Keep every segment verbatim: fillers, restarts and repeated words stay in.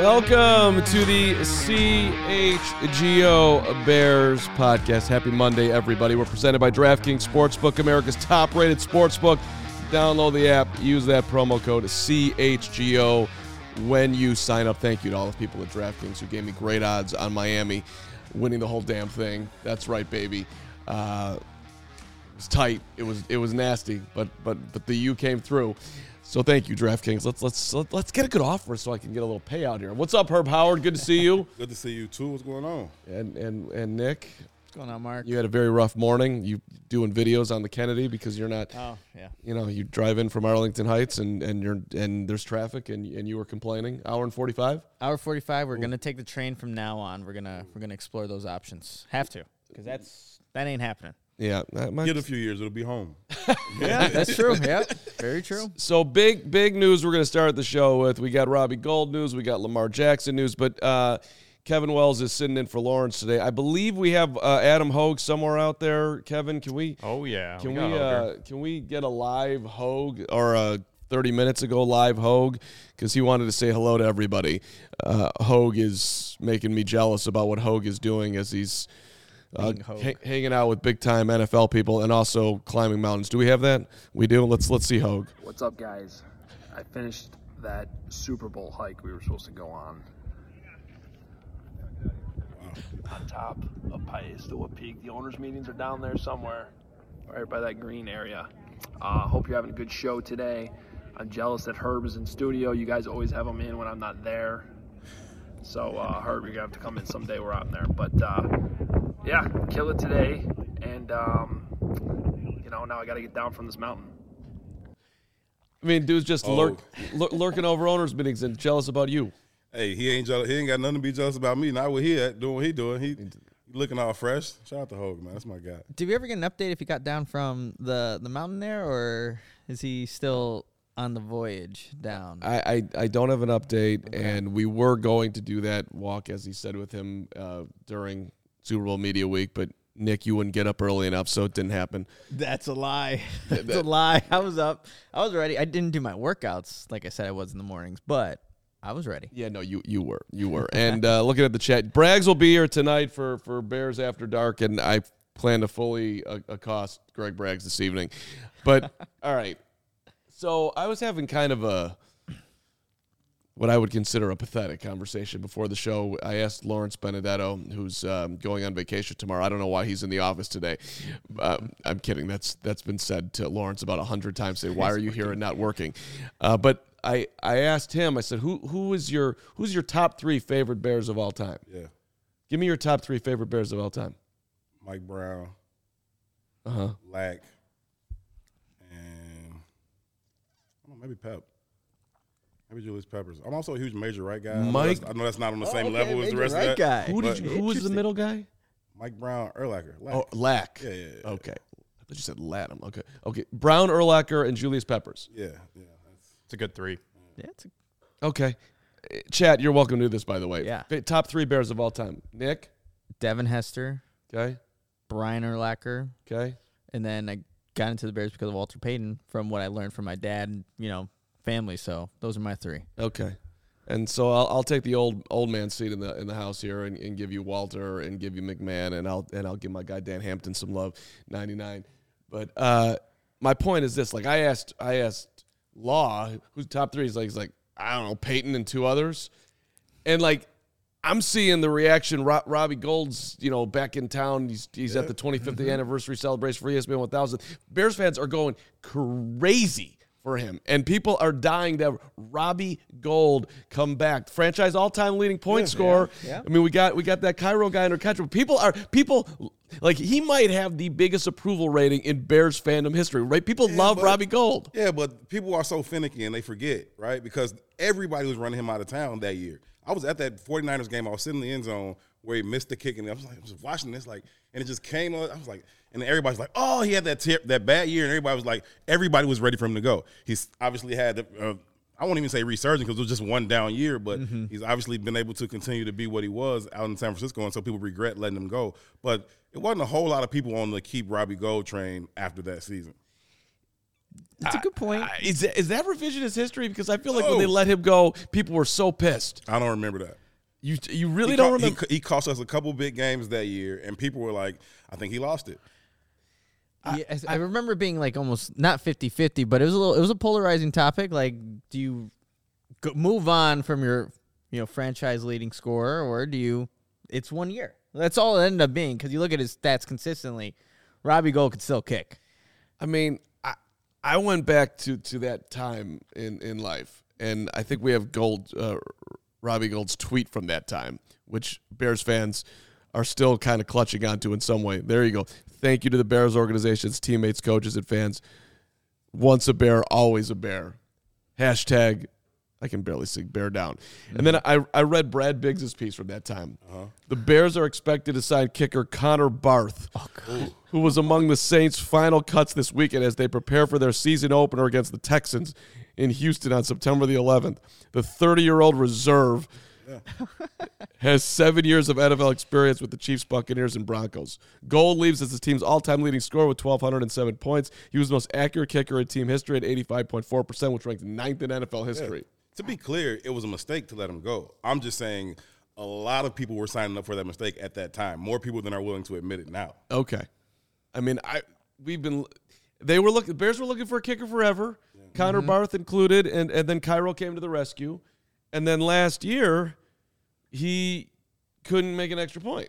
Welcome to the C H G O Bears podcast. Happy Monday, everybody. We're presented by DraftKings Sportsbook, America's top-rated sportsbook. Download the app. Use that promo code C H G O when you sign up. Thank you to all the people at DraftKings who gave me great odds on Miami winning the whole damn thing. That's right, baby. Uh, it was tight. It was it was nasty, but but but the U came through. So thank you, DraftKings. Let's let's let's get a good offer so I can get a little payout here. What's up, Herb Howard? Good to see you. Good to see you too. What's going on? And and and Nick. What's going on, Mark? You had a very rough morning. You doing videos on the Kennedy because you're not. Oh yeah. You know, you drive in from Arlington Heights and and you're and there's traffic and and you were complaining. Hour and forty-five. Hour forty-five. We're Ooh. gonna take the train from now on. We're gonna we're gonna explore those options. Have to, because that's that ain't happening. Yeah, that might get a few years, it'll be home. Yeah, that's true. Yeah, very true. So big, big news. We're going to start the show with. We got Robbie Gould news. We got Lamar Jackson news. But uh, Kevin Wells is sitting in for Lawrence today. I believe we have uh, Adam Hogue somewhere out there. Kevin, can we? Oh yeah. Can we, we? Uh, can we get a live Hogue or a thirty minutes ago live Hogue? Because he wanted to say hello to everybody. Uh, Hogue is making me jealous about what Hogue is doing as he's. Uh, ha- hanging out with big-time N F L people and also climbing mountains. Do we have that? We do. Let's let's see Hogue. What's up, guys? I finished that Super Bowl hike we were supposed to go on. On top of Paistoa Peak. The owners' meetings are down there somewhere, right by that green area. Uh, hope you're having a good show today. I'm jealous that Herb is in studio. You guys always have him in when I'm not there. So, uh, Herb, you're going to have to come in someday where I'm there. But, uh, yeah, kill it today. And, um, you know, now I got to get down from this mountain. I mean, dude's just oh. lurk, lurk, lurking over owners' meetings and jealous about you. Hey, he ain't jealous. He ain't got nothing to be jealous about me. Not what he at, doing what he doing. He, he looking all fresh. Shout out to Hogue, man. That's my guy. Did we ever get an update if he got down from the, the mountain there, or is he still on the voyage down? I, I, I don't have an update, okay. and we were going to do that walk, as he said, with him uh, during Super Bowl Media Week, but Nick, you wouldn't get up early enough, so it didn't happen. That's a lie. That's a lie. I was up. I was ready. I didn't do my workouts like I said I was in the mornings, but I was ready. Yeah, no, you you were. You were. And uh, looking at the chat, Braggs will be here tonight for, for Bears After Dark, and I plan to fully uh, accost Greg Braggs this evening. But, all right. So I was having kind of a, what I would consider a pathetic conversation before the show. I asked Lawrence Benedetto, who's um, going on vacation tomorrow. I don't know why he's in the office today. Uh, I'm kidding. That's that's been said to Lawrence about a hundred times. Say, why are you here and not working? Uh, but I, I asked him. I said, who who is your who's your top three favorite Bears of all time? Yeah, give me your top three favorite Bears of all time. Mike Brown, uh huh, Lack, and I don't know, maybe Pep. Maybe Julius Peppers. I'm also a huge Major Wright guy. Mike, I know that's, I know that's not on the same oh, okay, level as the rest right of that. Guy. Who did you, who was the middle guy? Mike Brown, Urlacher. Lack. Oh, Lack. Yeah, yeah, yeah. Okay. I thought you said Latham. Okay. Okay. Brown, Urlacher, and Julius Peppers. Yeah, yeah. That's, it's a good three. Yeah, it's a okay. Chad, you're welcome to do this, by the way. Yeah. Top three Bears of all time. Nick? Devin Hester. Okay. Brian Urlacher. Okay. And then I got into the Bears because of Walter Payton from what I learned from my dad and, you know, family. So those are my three. Okay. And so I'll I'll take the old old man seat in the in the house here and, and give you Walter and give you McMahon and I'll and I'll give my guy Dan Hampton some love, ninety-nine. But uh, my point is this: like I asked I asked Law, who's top three? He's like he's like I don't know, Peyton and two others, and like I'm seeing the reaction. Ro- Robbie Gould's you know back in town. He's he's yeah. at the twenty-fifth mm-hmm. anniversary celebration for E S P N one thousand. Bears fans are going crazy for him, and people are dying to have Robbie Gould come back, franchise all-time leading point yeah, scorer. Yeah, yeah. I mean, we got we got that Cairo guy under catch. People are people like he might have the biggest approval rating in Bears fandom history, right? People yeah, love but, Robbie Gould. Yeah, but people are so finicky and they forget, right? Because everybody was running him out of town that year. I was at that 49ers game. I was sitting in the end zone where he missed the kick, and I was like, I was watching this, like, and it just came on. I was like, and everybody's like, oh, he had that tip, that bad year, and everybody was like, everybody was ready for him to go. He's obviously had, the, uh, I won't even say resurgence because it was just one down year, but mm-hmm. he's obviously been able to continue to be what he was out in San Francisco, and so people regret letting him go. But it wasn't a whole lot of people on the keep Robbie Gould train after that season. That's a good point. I, is, that, is that revisionist history? Because I feel like No. when they let him go, people were so pissed. I don't remember that. You you really He don't co- remember? He, he cost us a couple big games that year, and people were like, I think he lost it. Yeah, I, I remember it being like almost not fifty-fifty, but it was a little. It was a polarizing topic. Like, do you go, move on from your, you know, franchise leading scorer, or do you? It's one year. That's all it ended up being because you look at his stats consistently. Robbie Gould could still kick. I mean, I I went back to, to that time in, in life, and I think we have Gold, uh, Robbie Gould's tweet from that time, which Bears fans are still kind of clutching onto in some way. There you go. Thank you to the Bears organization's teammates, coaches, and fans. Once a Bear, always a Bear. Hashtag, I can barely sing Bear down. And then I, I read Brad Biggs' piece from that time. Uh-huh. The Bears are expected to sign kicker Connor Barth, oh, who was among the Saints' final cuts this weekend as they prepare for their season opener against the Texans in Houston on September the eleventh. The thirty-year-old reserve yeah. has seven years of N F L experience with the Chiefs, Buccaneers, and Broncos. Gould leaves as the team's all-time leading scorer with twelve oh seven points. He was the most accurate kicker in team history at eighty-five point four percent, which ranks ninth in N F L history. Yeah. To be clear, it was a mistake to let him go. I'm just saying a lot of people were signing up for that mistake at that time. More people than are willing to admit it now. Okay. I mean, I we've been they were looking the Bears were looking for a kicker forever. Yeah. Connor mm-hmm. Barth included, and, and then Cairo came to the rescue. And then last year, he couldn't make an extra point.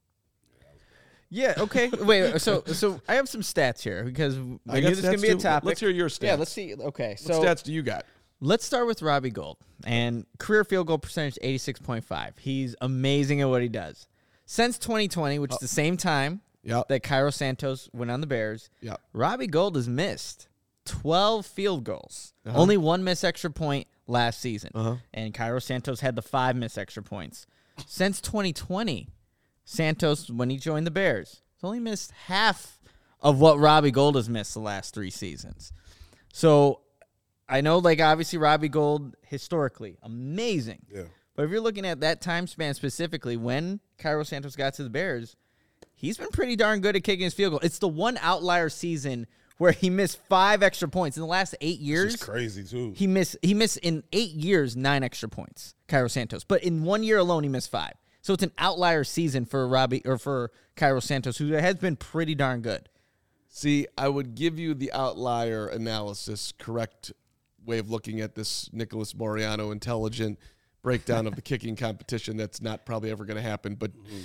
Yeah, okay. Wait, so so I have some stats here because I, I knew this was going to be a topic. Let's hear your stats. Yeah, let's see. Okay, so what stats do you got? Let's start with Robbie Gould. And career field goal percentage, eighty-six point five. He's amazing at what he does. Since twenty twenty, which oh. is the same time yep. that Cairo Santos went on the Bears, yep. Robbie Gould has missed twelve field goals. Uh-huh. Only one missed extra point last season. Uh-huh. And Cairo Santos had the five missed extra points. Since twenty twenty, Santos, when he joined the Bears, has only missed half of what Robbie Gould has missed the last three seasons. So I know, like, obviously Robbie Gould, historically, amazing. Yeah. But if you're looking at that time span specifically, when Cairo Santos got to the Bears, he's been pretty darn good at kicking his field goal. It's the one outlier season where he missed five extra points. In the last eight years, This is crazy, too. He missed, he missed in eight years, nine extra points, Cairo Santos. But in one year alone, he missed five. So it's an outlier season for Robbie or for Cairo Santos, who has been pretty darn good. See, I would give you the outlier analysis, correct way of looking at this Nicholas Moriano intelligent breakdown of the kicking competition that's not probably ever going to happen. But mm-hmm.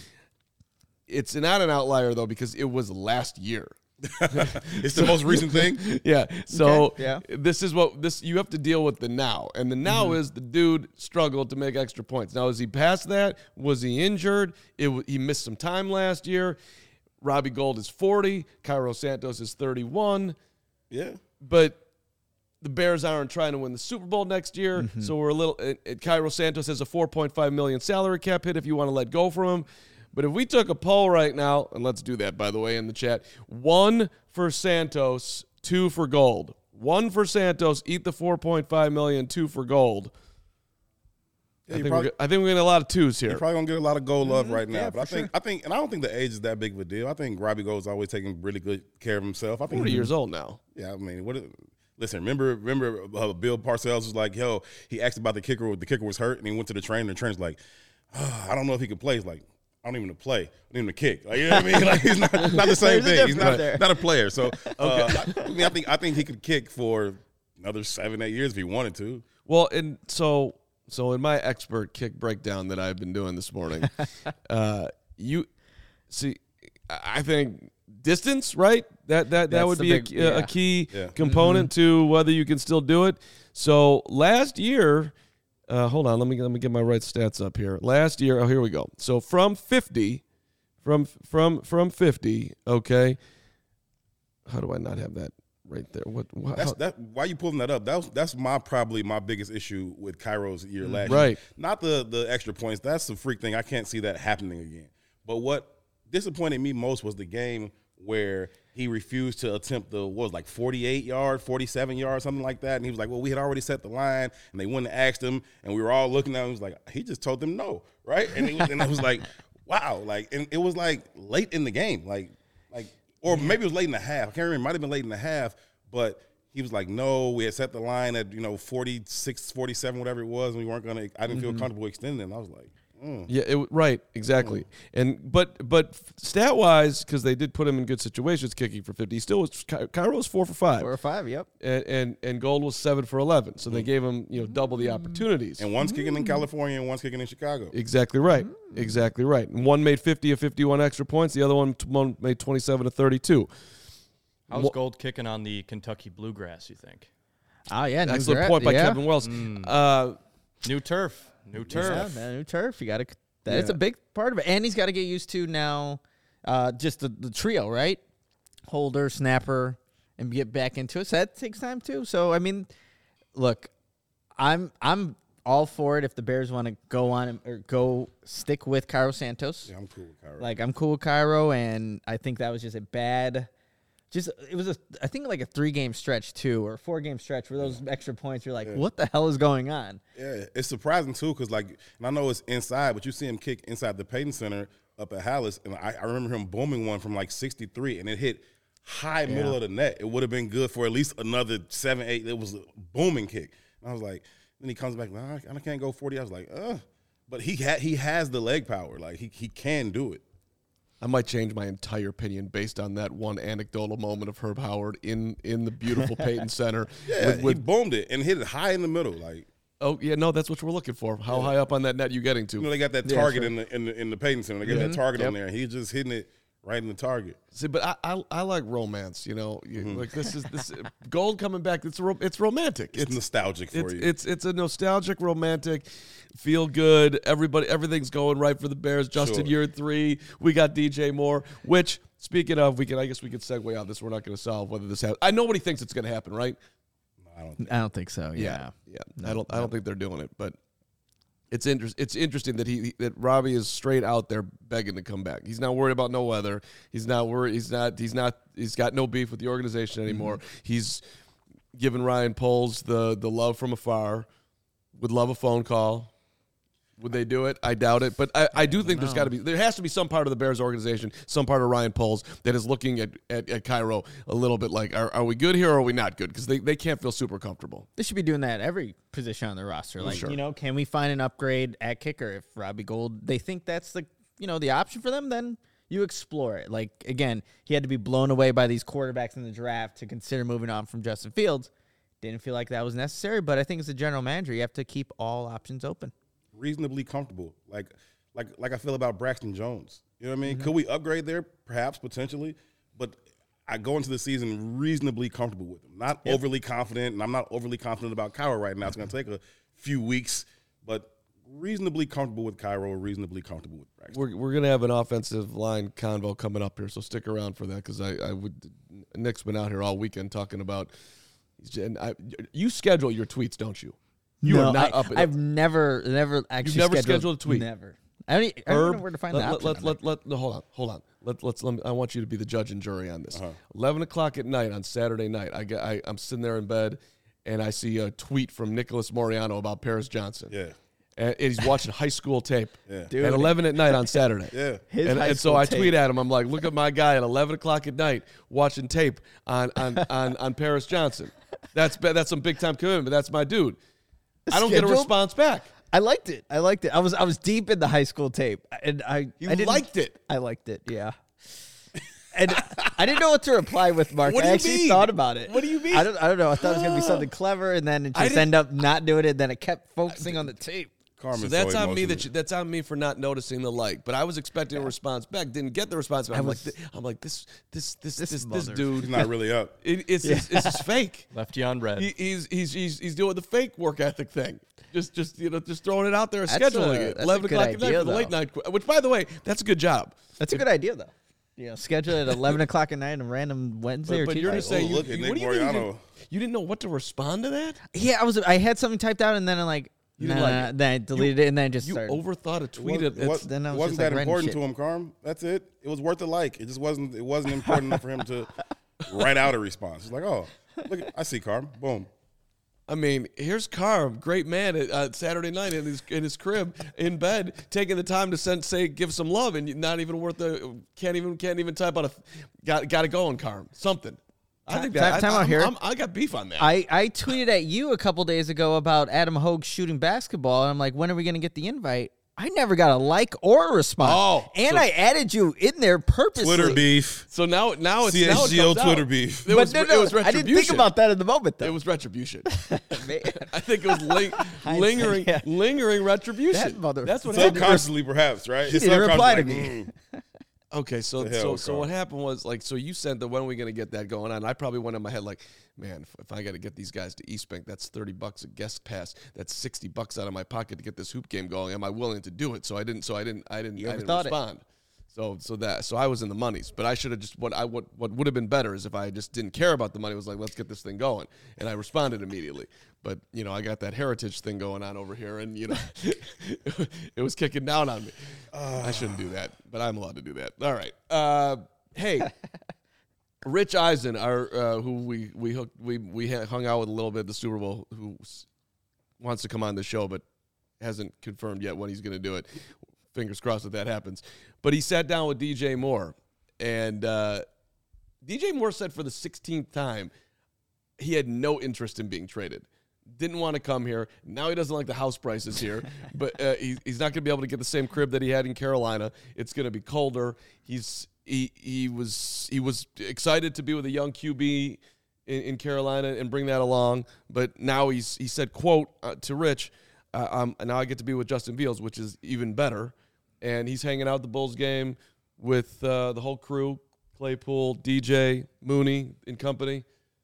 it's not an outlier, though, because it was last year. It's the most recent thing? Yeah. So okay. yeah. this is what this you have to deal with the now. And the now mm-hmm. is the dude struggled to make extra points. Now, is he past that? Was he injured? It He missed some time last year. Robbie Gould is forty. Cairo Santos is thirty-one. Yeah. But the Bears aren't trying to win the Super Bowl next year, mm-hmm. so we're a little. It, it, Cairo Santos has a four point five million dollars salary cap hit if you want to let go from him. But if we took a poll right now, and let's do that, by the way, in the chat, one for Santos, two for Gould. One for Santos, eat the four point five million dollars, two for Gould. Yeah, I, think probably, I think we're getting a lot of twos here. You're probably gonna get a lot of goal love mm-hmm. right now, yeah, but I think sure. I think, and I don't think the age is that big of a deal. I think Robbie Gould's always taking really good care of himself. I think forty years old now. Yeah, I mean, what? Listen, remember, remember, uh, Bill Parcells was like, "Yo," he asked about the kicker. The kicker was hurt, and he went to the trainer. And the trainer's like, oh, "I don't know if he can play." He's like, "I don't even know to play. I don't even to kick." Like, you know what I mean? Like, he's not, not the same thing. He's not, not a player. So, uh, okay. I, I mean, I think I think he could kick for another seven, eight years if he wanted to. Well, and so. So in my expert kick breakdown that I've been doing this morning, uh, you see, I think distance, right? That that, that would be big, a, yeah. a key yeah. component mm-hmm. to whether you can still do it. So last year, uh, hold on, let me let me get my right stats up here. Last year, oh here we go. So from fifty, from from from fifty, okay. How do I not have that? Right there. What? what that's that. Why are you pulling that up? That's that's my probably my biggest issue with Cairo's year last right. year. Not the the extra points. That's a freak thing. I can't see that happening again. But what disappointed me most was the game where he refused to attempt the what was like forty-eight yard, forty-seven yard, something like that. And he was like, "Well, we had already set the line," and they went and asked him, and we were all looking at him. He was like, "He just told them no, right?" And it was, and I was like, "Wow!" Like, and it was like late in the game, like like. Or maybe it was late in the half. I can't remember. It might have been late in the half, but he was like, no, we had set the line at, you know, forty-six, forty-seven, whatever it was, and we weren't going to, I didn't feel comfortable extending it. And I was like, mm. Yeah, it, right, exactly. And but but stat wise, because they did put him in good situations, kicking for fifty. He still was Ky- Cairo was four for five, Four or five, yep. and and, and Gold was seven for eleven. So they gave him you know double the opportunities. And one's kicking in California and one's kicking in Chicago. Exactly right, exactly right. And one made fifty of fifty-one extra points. The other one, t- one made twenty-seven of thirty-two. How's Wha- Gold kicking on the Kentucky Bluegrass, you think? Oh, yeah. new Excellent gra- point by yeah. Kevin Wells. Uh, New turf. New turf. Yeah, man, new turf. You got to. That's Yeah. a big part of it, and he's got to get used to now. Uh, just the, the trio, right? Holder, snapper, and get back into it. So that takes time too. So I mean, look, I'm I'm all for it if the Bears want to go on and- or go stick with Cairo Santos. Yeah, I'm cool with Cairo. Like I'm cool with Cairo, and I think that was just a bad. Just it was a I think like a three game stretch too, or four game stretch where those extra points. You're like, what the hell is going on? Yeah, it's surprising too, because like, and I know it's inside, but you see him kick inside the Payton Center up at Hallis, and I, I remember him booming one from like sixty-three, and it hit high middle of the net. It would have been good for at least another seven, eight. It was a booming kick. And I was like, then he comes back, nah, I can't go forty. I was like, uh, but he had he has the leg power, like he he can do it. I might change my entire opinion based on that one anecdotal moment of Herb Howard in, in the beautiful Payton Center. Yeah, with, with, he boomed it and hit it high in the middle, like. oh yeah, no, that's what we're looking for. How Yeah. high up on that net you getting to? You know, they got that Yeah, target sure. in the in the in the Payton Center. They got that target Yep. on there, and he's just hitting it right in the target. See, but I, I I like romance. You know, You- Mm-hmm. like this is this Gold coming back. It's ro- it's romantic. It's, nostalgic for it's, you. it's it's a nostalgic, romantic, feel good. Everybody, everything's going right for the Bears. Justin, Sure. year three. We got D J Moore. Which, speaking of, we can I guess we could segue out this. We're not going to solve whether this happens. I nobody thinks it's going to happen, right? I don't think. I don't think so. Yeah. yeah. I don't I don't think they're doing it, but it's inter- It's interesting that he that Robbie is straight out there begging to come back. He's not worried about no weather. He's not worried. He's not. He's not. He's got no beef with the organization anymore. He's giving Ryan Poles the the love from afar. Would love a phone call. Would they do it? I doubt it. But I, I do think there's got to be, there has to be some part of the Bears organization, some part of Ryan Poles that is looking at, at, at Cairo a little bit like, are, are we good here or are we not good? Because they, they can't feel super comfortable. They should be doing that at every position on the roster. Like, Sure. you know, can we find an upgrade at kicker? If Robbie Gold, they think that's the, you know, the option for them, then you explore it. Like, again, he had to be blown away by these quarterbacks in the draft to consider moving on from Justin Fields. Didn't feel like that was necessary, but I think as a general manager, you have to keep all options open. Reasonably comfortable, like like like I feel about Braxton Jones. You know what I mean? Could we upgrade there? Perhaps, potentially, but I go into the season reasonably comfortable with him. Not overly confident, and I'm not overly confident about Cairo right now. It's going to take a few weeks, but reasonably comfortable with Cairo, reasonably comfortable with Braxton. We're, we're going to have an offensive line convo coming up here, so stick around for that because I, I would. Nick's been out here all weekend talking about. And I, you schedule your tweets, don't you? You no, are not I, up. I've never, never actually never scheduled, scheduled a tweet? Never. I don't, e- I don't know where to find let, the let, option let, on let, that. let, no, hold on, hold on. Let, let's. Let me, I want you to be the judge and jury on this. Uh-huh. Eleven o'clock at night on Saturday night, I get. I, I'm sitting there in bed, and I see a tweet from Nicholas Moriano about Paris Johnson. Yeah, and he's watching high school tape. Yeah. Dude. At eleven at night on Saturday. yeah. His and, high and so school I tape. tweet at him. I'm like, look at my guy at eleven o'clock at night watching tape on on on, on Paris Johnson. That's be- that's some big time commitment. That's my dude. I don't get a Scheduled? response back. I liked it. I liked it. I was I was deep in the high school tape, and I You I didn't, liked it? I liked it. Yeah. And I didn't know what to reply with, Mark. What do I you actually mean? thought about it. What do you mean? I don't. I don't know. I thought it was gonna be something clever, and then it I just didn't- end up not doing it. Then I kept focusing on the tape. Carmen's So that's on me. emotional. That you, that's on me for not noticing the like. But I was expecting a response back. Didn't get the response back. I'm was- like, I'm like this this this this this, mother- dude. He's not really up. It, it's it's, it's just fake. Left you on red. He, he's he's he's he's doing the fake work ethic thing. Just just you know just throwing it out there, That's scheduling a- it. that's a Eleven good o'clock at night idea, for the late though. night. qu- Which, by the way, that's a good job. That's a good idea, though. You know, schedule it at eleven o'clock at night on a random Wednesday But, or but Tuesday. you're just saying, Oh, you, look at you- Nick what do you mean you Moriano. didn't, you didn't know what to respond to that? Yeah, I was. I had something typed out, and then I like. You nah, didn't like it. Then I deleted it, and then I just You started. overthought a It tweet. wasn't, It, what- it's, then I was wasn't just, like, that writing important shit. to him, Carm? That's it. It was worth the like. It just wasn't. It wasn't important enough for him to write out a response. It's like, oh, look, I see Carm. Boom. I mean, here's Carm, great man, at uh, Saturday night in his in his crib in bed, taking the time to send say give some love, and not even worth the can't even can't even type out a got got to go on Carm something. I think Time- that time I, out I'm- here. I'm- I got beef on that. I, I tweeted at you a couple days ago about Adam Hogue shooting basketball, and I'm like, when are we going to get the invite? I never got a like or a response. Oh, and so- I added you in there purposely. Twitter beef. so now, now it's now it C S G O comes out. Twitter beef. It But was, no, it no, was I didn't think retribution. about that in the moment, though. It was retribution. Man. I think it was ling- lingering, yeah. lingering retribution. That mother- That's what happened. Subconsciously, perhaps, right? He It's didn't reply to subconscious, me. like, mm. Okay, so The hell, so so Carl. what happened was like so you said that when are we gonna get that going on? I probably went in my head like, man, if, if I got to get these guys to East Bank, that's thirty bucks a guest pass. That's sixty bucks out of my pocket to get this hoop game going. Am I willing to do it? So I didn't. So I didn't. I didn't. You I didn't overthought it. respond. So so that so I was in the monies, but I should have just what I what what would have been better is if I just didn't care about the money. Was like, let's get this thing going, and I responded immediately. But you know, I got that heritage thing going on over here, and you know, it was kicking down on me. I shouldn't do that, but I'm allowed to do that. All right. Uh, hey, Rich Eisen, our uh, who we we hooked, we we hung out with a little bit at the Super Bowl, who s- wants to come on the show, but hasn't confirmed yet when he's going to do it. Fingers crossed that that happens. But he sat down with D J Moore, and uh, D J Moore said for the sixteenth time he had no interest in being traded. Didn't want to come here. Now he doesn't like the house prices here, but uh, he, he's not going to be able to get the same crib that he had in Carolina. It's going to be colder. He's he he was he was excited to be with a young Q B in, in Carolina and bring that along, but now he's he said, quote uh, to Rich, uh, um, now I get to be with Justin Fields, which is even better, and he's hanging out at the Bulls game with uh, the whole crew, Claypool, D J, Mooney, and company.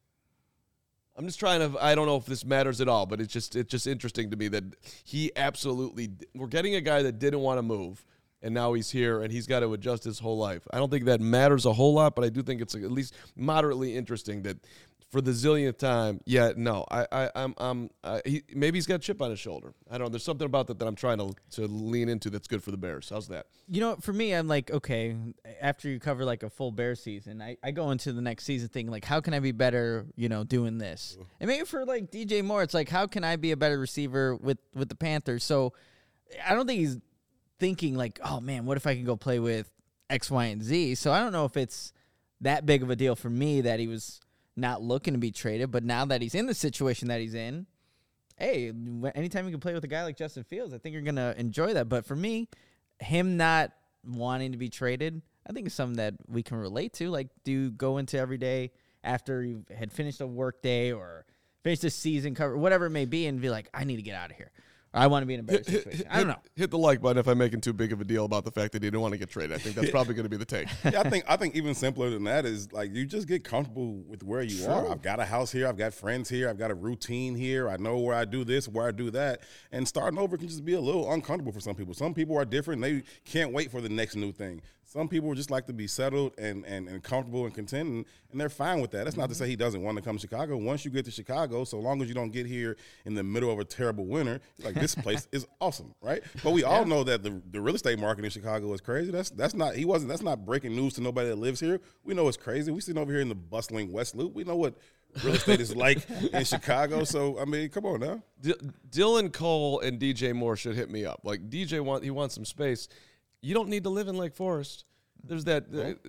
I'm just trying to, I don't know if this matters at all, but it's just it's just interesting to me that he absolutely, we're getting a guy that didn't want to move, and now he's here, and he's got to adjust his whole life. I don't think that matters a whole lot, but I do think it's at least moderately interesting that for the zillionth time, yeah, no, I, I, I'm, I'm, uh, he, maybe he's got a chip on his shoulder. I don't know. There's something about that that I'm trying to to lean into that's good for the Bears. How's that? You know, for me, I'm like, okay, after you cover like a full Bear season, I, I go into the next season thinking like, how can I be better, you know, doing this? And maybe for like D J Moore, it's like, how can I be a better receiver with, with the Panthers? So I don't think he's thinking like, oh man, what if I can go play with X, Y, and Z? So I don't know if it's that big of a deal for me that he was not looking to be traded, but now that he's in the situation that he's in, hey, anytime you can play with a guy like Justin Fields, I think you're going to enjoy that. But for me, him not wanting to be traded, I think it's something that we can relate to. Like, do you go into every day after you had finished a work day or finished a season cover, whatever it may be, and be like, I need to get out of here. Or I want to be in a better situation. I don't know. Hit the like button if I'm making too big of a deal about the fact that he didn't want to get traded. I think that's probably going to be the take. Yeah, I think I think even simpler than that is like you just get comfortable with where you Sure. are. I've got a house here, I've got friends here, I've got a routine here. I know where I do this, where I do that, and starting over can just be a little uncomfortable for some people. Some people are different; they can't wait for the next new thing. Some people just like to be settled and and, and comfortable and content, and, and they're fine with that. That's not to say he doesn't want to come to Chicago. Once you get to Chicago, so long as you don't get here in the middle of a terrible winter, like this place is awesome, right? But we all know that the, the real estate market in Chicago is crazy. That's that's not he wasn't that's not breaking news to nobody that lives here. We know it's crazy. We sitting over here in the bustling West Loop. We know what real estate is like in Chicago. So I mean, come on now. D- Dylan Cole and D J Moore should hit me up. Like D J want he wants some space. You don't need to live in Lake Forest. There's that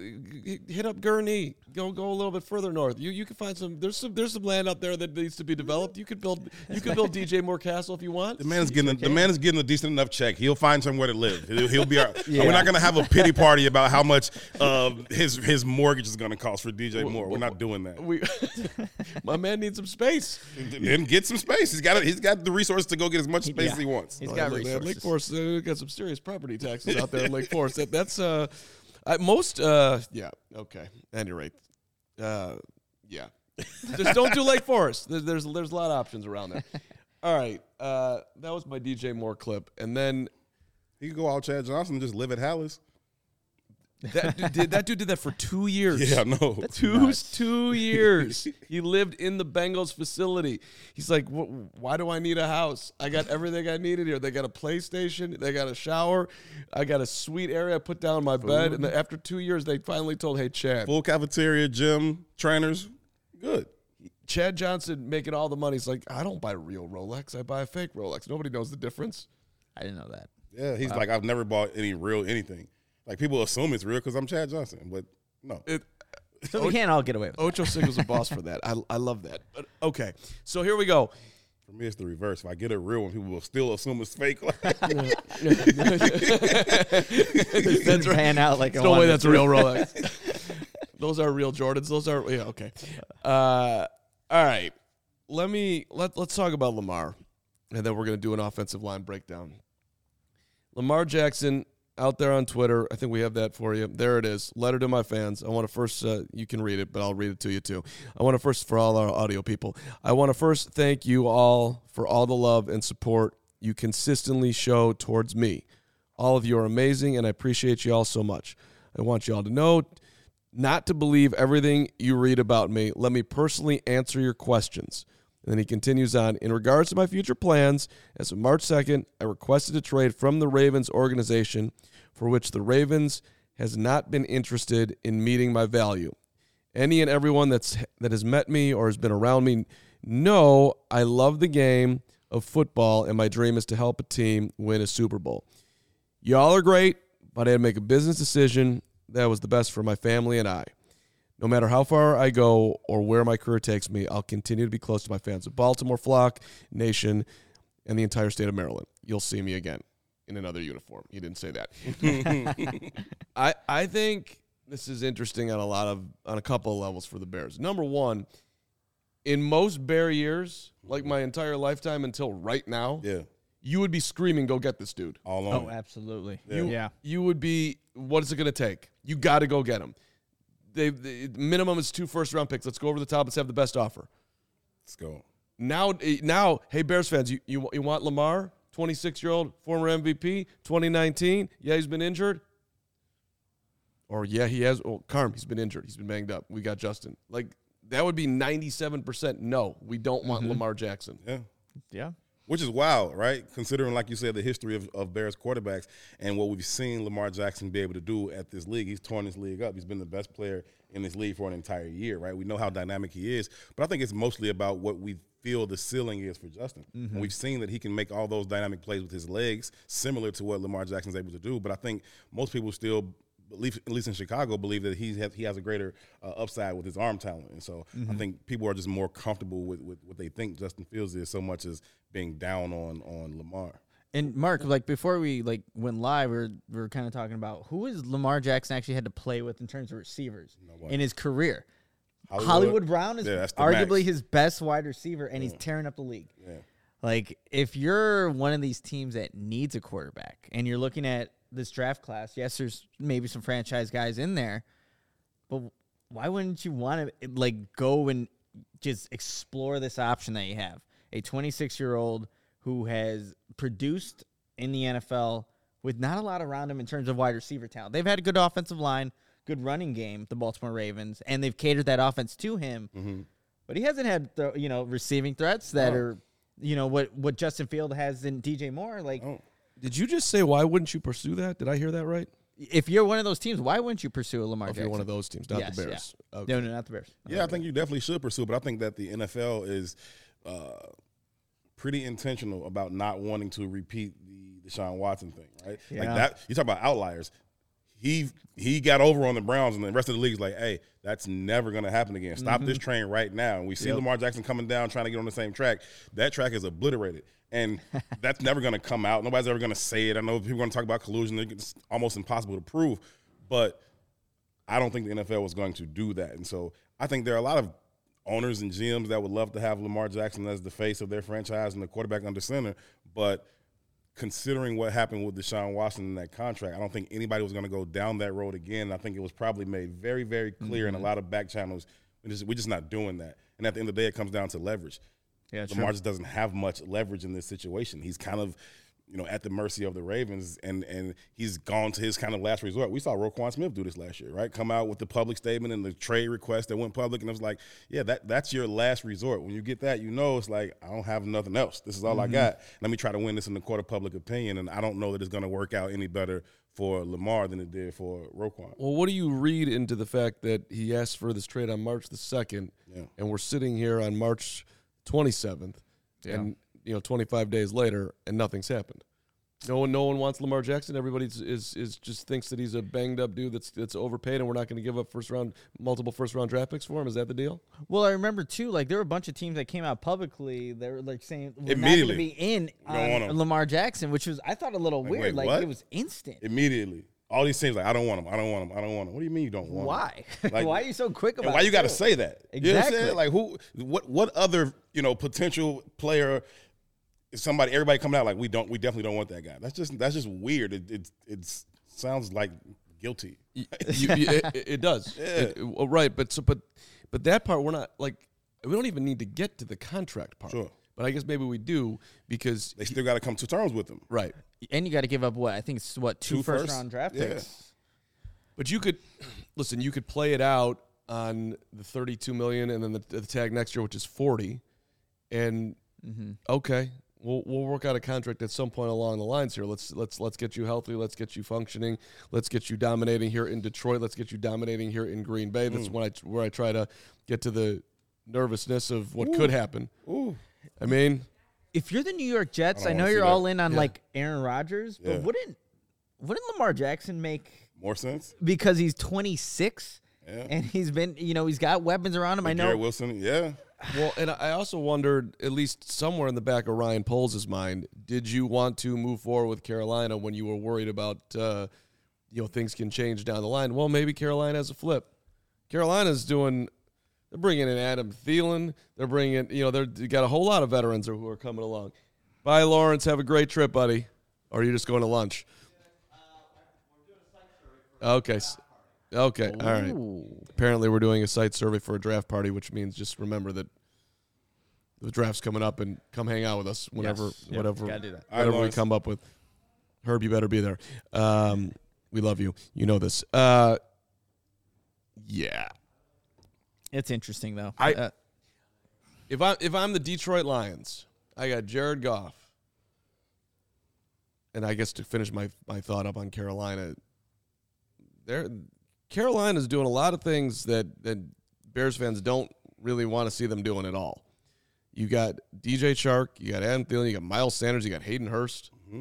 uh, hit up Gurnee. Go go a little bit further north. You you can find some. There's some there's some land out there that needs to be developed. You could build you could build D J Moore Castle if you want. The man is getting a, the man is getting a decent enough check. He'll find somewhere to live. He'll, he'll be. Our, yeah. We're not going to have a pity party about how much uh, his his mortgage is going to cost for D J Moore. We're not doing that. We, my man needs some space. Then get some space. He's got he's got the resources to go get as much space Yeah. as he wants. He's Oh, got look, man, resources. Lake Forest uh, got some serious property taxes out there in Lake Forest. That, that's uh, I, most uh, yeah okay. At any rate, uh, yeah. Just don't do Lake Forest. There's, there's there's a lot of options around there. All right, uh, that was my D J Moore clip, and then He could go out Chad Johnson and just live at Hallis. that dude did that dude did that for two years. Yeah, no. Two two years. He lived in the Bengals facility. He's like, why do I need a house? I got everything I needed here. They got a PlayStation. They got a shower. I got a sweet area I put down my bed. And after two years, they finally told, hey, Chad. Full cafeteria, gym, trainers. Good. Chad Johnson making all the money. He's like, I don't buy real Rolex. I buy a fake Rolex. Nobody knows the difference. I didn't know that. Yeah, he's like, I've never bought any real anything. Like, people assume it's real because I'm Chad Johnson, but no. It, So we can't all get away with it. Ocho Cinco's a boss for that. I I love that. But okay, so here we go. For me, it's the reverse. If I get a real one, people will still assume it's fake. That's right. Pan out like There's a no way Wonder that's a real Rolex. Those are real Jordans. Those are yeah okay. Uh, all right, let me let let's talk about Lamar, and then we're gonna do an offensive line breakdown. Lamar Jackson out there on Twitter. I think we have that for you. There it is. Letter to my fans. I want to first, uh, you can read it, but I'll read it to you too. I want to first, for all our audio people, I want to first thank you all for all the love and support you consistently show towards me. All of you are amazing, and I appreciate you all so much. I want you all to know not to believe everything you read about me. Let me personally answer your questions. And then he continues on, in regards to my future plans, as of March second, I requested a trade from the Ravens organization for which the Ravens has not been interested in meeting my value. Any and everyone that's that has met me or has been around me know I love the game of football, and my dream is to help a team win a Super Bowl. Y'all are great, but I had to make a business decision that was the best for my family and I. No matter how far I go or where my career takes me, I'll continue to be close to my fans of Baltimore, Flock, Nation, and the entire state of Maryland. You'll see me again in another uniform. He didn't say that. I I think this is interesting on a lot of on a couple of levels for the Bears. Number one, in most Bear years, like my entire lifetime until right now, Yeah. you would be screaming, "Go get this dude!" All Oh, on. absolutely. Yeah. You, yeah. You would be, what is it going to take? You got to go get him. They, the minimum is two first round picks. Let's go over the top. Let's have the best offer. Let's go. Now, now, hey Bears fans, you you, you want Lamar, twenty-six year old former M V P, twenty nineteen? Yeah, he's been injured. Or yeah, he has. Oh, Carm, he's been injured. He's been banged up. We got Justin. Like that would be ninety-seven percent. No, we don't want Mm-hmm. Lamar Jackson. Yeah. Yeah. Which is wild, right? Considering, like you said, the history of, of Bears quarterbacks and what we've seen Lamar Jackson be able to do at this league. He's torn this league up. He's been the best player in this league for an entire year, right? We know how dynamic he is, but I think it's mostly about what we feel the ceiling is for Justin. Mm-hmm. And we've seen that he can make all those dynamic plays with his legs, similar to what Lamar Jackson's able to do. But I think most people still believe, at least in Chicago, believe that he has, he has a greater uh, upside with his arm talent. And so Mm-hmm. I think people are just more comfortable with, with what they think Justin Fields is so much as being down on on Lamar. And Mark, like before we like went live, we were, we were kind of talking about who has Lamar Jackson actually had to play with in terms of receivers Nobody. in his career. Hollywood, Hollywood Brown is Yeah, that's the arguably max. his best wide receiver, and he's tearing up the league. Yeah. Like, if you're one of these teams that needs a quarterback and you're looking at this draft class, yes, there's maybe some franchise guys in there, but why wouldn't you want to, like, go and just explore this option that you have? A twenty-six-year-old who has produced in the N F L with not a lot around him in terms of wide receiver talent. They've had a good offensive line, good running game, the Baltimore Ravens, and they've catered that offense to him. Mm-hmm. But he hasn't had, the, you know, receiving threats that Oh. are, you know, what, what Justin Field has in D J Moore. Like, Oh. Did you just say why wouldn't you pursue that? Did I hear that right? if you're one of those teams, why wouldn't you pursue a Lamar Or if Jackson? you're one of those teams, not Yes, the Bears. yeah. Okay. No, no, not the Bears. Yeah, I think you definitely should pursue, but I think that the N F L is uh, pretty intentional about not wanting to repeat the Deshaun Watson thing, right? Yeah. Like that, you talk about outliers. He he got over on the Browns, and the rest of the league is like, hey, that's never going to happen again. Stop this train right now. And we see Yep. Lamar Jackson coming down, trying to get on the same track. That track is obliterated. And that's never going to come out. Nobody's ever going to say it. I know people are going to talk about collusion. It's almost impossible to prove. But I don't think the N F L was going to do that. And so I think there are a lot of owners and G Ms that would love to have Lamar Jackson as the face of their franchise and the quarterback under center. But considering what happened with Deshaun Watson in that contract, I don't think anybody was going to go down that road again. I think it was probably made very, very clear in a lot of back channels. We're just, we're just not doing that. And at the end of the day, it comes down to leverage. Yeah, Lamar just doesn't have much leverage in this situation. He's kind of, you know, at the mercy of the Ravens, and and he's gone to his kind of last resort. We saw Roquan Smith do this last year, right? Come out with the public statement and the trade request that went public, and it was like, yeah, that that's your last resort. When you get that, you know, it's like, I don't have nothing else. This is all I got. Let me try to win this in the court of public opinion, and I don't know that it's going to work out any better for Lamar than it did for Roquan. Well, what do you read into the fact that he asked for this trade on March the second, Yeah. and we're sitting here on March twenty-seventh, and you know, twenty-five days later, and nothing's happened? No one, no one wants Lamar Jackson. Everybody is is just thinks that he's a banged up dude that's that's overpaid, and we're not going to give up first round, multiple first round draft picks for him. Is that the deal? Well, I remember too. Like there were a bunch of teams that came out publicly. They were like saying we're not going Immediately. to be in don't want on him. Lamar Jackson, which was I thought a little Like, weird. wait, like what? it was instant. Immediately. All these teams like, I don't want him. I don't want him. I don't want him. What do you mean you don't want him? Why? Like, Why are you so quick about And why it? you got to too? say that? You know what I'm Exactly. saying? Like who? What? What other you know potential player? Is somebody? Everybody coming out like we don't. We definitely don't want that guy. That's just that's just weird. It it, it sounds like guilty. You, you, it, it does. Yeah. It- it- well, right, but so but but that part we're not like we don't even need to get to the contract part. Sure. But I guess maybe we do because They still got to come to terms with him. right. And you got to give up what I think it's what two, Two first, first? round draft Yeah. picks. But you could listen. You could play it out on the thirty-two million, and then the, the tag next year, which is forty. And okay, we'll we'll work out a contract at some point along the lines here. Let's let's let's get you healthy. Let's get you functioning. Let's get you dominating here in Detroit. Let's get you dominating here in Green Bay. That's when I where I try to get to the nervousness of what could happen. Ooh. I mean, If you're the New York Jets, I I, don't know wanna see you're that. all in on Yeah. like Aaron Rodgers, but Yeah. wouldn't wouldn't Lamar Jackson make More sense? because he's twenty-six Yeah. and he's been you know he's got weapons around him. I know. Garrett Wilson, yeah. well, and I also wondered, at least somewhere in the back of Ryan Poles' mind, did you want to move forward with Carolina when you were worried about, uh, you know, things can change down the line? Well, maybe Carolina has a flip. Carolina's doing, they're bringing in Adam Thielen. They're bringing, you know, they're, they got a whole lot of veterans who are coming along. Bye, Lawrence. Have a great trip, buddy. Or are you just going to lunch? Okay. s- Okay. All right. Ooh. Apparently, we're doing a site survey for a draft party, which means just remember that the draft's coming up and come hang out with us whenever, Yes. Yep, whatever, gotta do that. All right, whatever we Lawrence. come up with. Herb, you better be there. Um, we love you. You know this. Uh, yeah. It's interesting though. I- Uh, If I if I'm the Detroit Lions, I got Jared Goff, and I guess to finish my my thought up on Carolina, they're Carolina's doing a lot of things that that Bears fans don't really want to see them doing at all. You got D J Chark, you got Adam Thielen, you got Miles Sanders, you got Hayden Hurst. you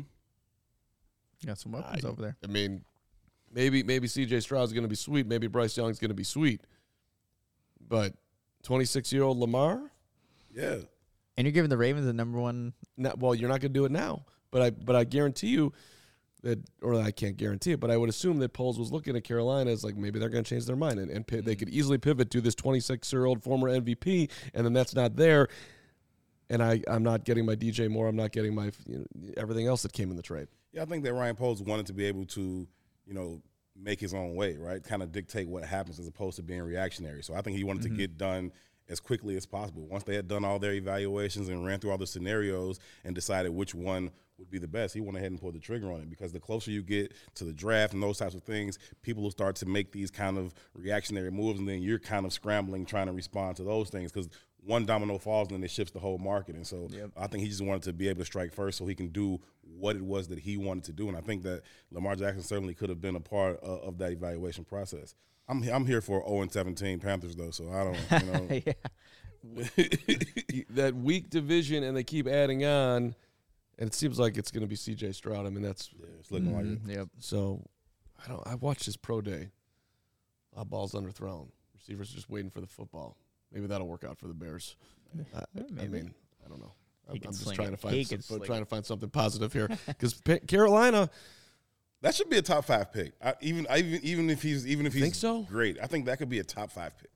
got some weapons I- over there. I mean, maybe maybe C J Stroud's going to be sweet, maybe Bryce Young's going to be sweet, but twenty-six-year-old Lamar. Yeah. And you're giving the Ravens the number one. Not, well, you're not going to do it now, but I but I guarantee you that, or I can't guarantee it, but I would assume that Poles was looking at Carolina as like maybe they're going to change their mind and, and pi- they could easily pivot to this twenty-six-year-old former M V P, and then that's not there, and I I'm not getting my D J Moore, I'm not getting my you know, everything else that came in the trade. Yeah, I think that Ryan Poles wanted to be able to, you know, make his own way, right? Kind of dictate what happens as opposed to being reactionary. So I think he wanted to get done as quickly as possible. Once they had done all their evaluations and ran through all the scenarios and decided which one would be the best, he went ahead and pulled the trigger on it, because the closer you get to the draft and those types of things, people will start to make these kind of reactionary moves, and then you're kind of scrambling trying to respond to those things, because one domino falls and then it shifts the whole market. And so I think he just wanted to be able to strike first so he can do what it was that he wanted to do. And I think that Lamar Jackson certainly could have been a part of, of that evaluation process. I'm I'm here for oh and seventeen Panthers though, so I don't, you know. Yeah. That weak division, and they keep adding on, and it seems like it's going to be C J Stroud. I mean, that's Yeah, it's looking like it. Yep. so. I don't. I watched his pro day. A lot of balls underthrown. Receivers just waiting for the football. Maybe that'll work out for the Bears. I, I maybe. mean, I don't know. I'm, He can I'm just sling trying it. to find He some, can sling trying it. to find something positive here because Carolina. That should be a top five pick. I, even I, even even if he's even if he's Think so? great, I think that could be a top five pick.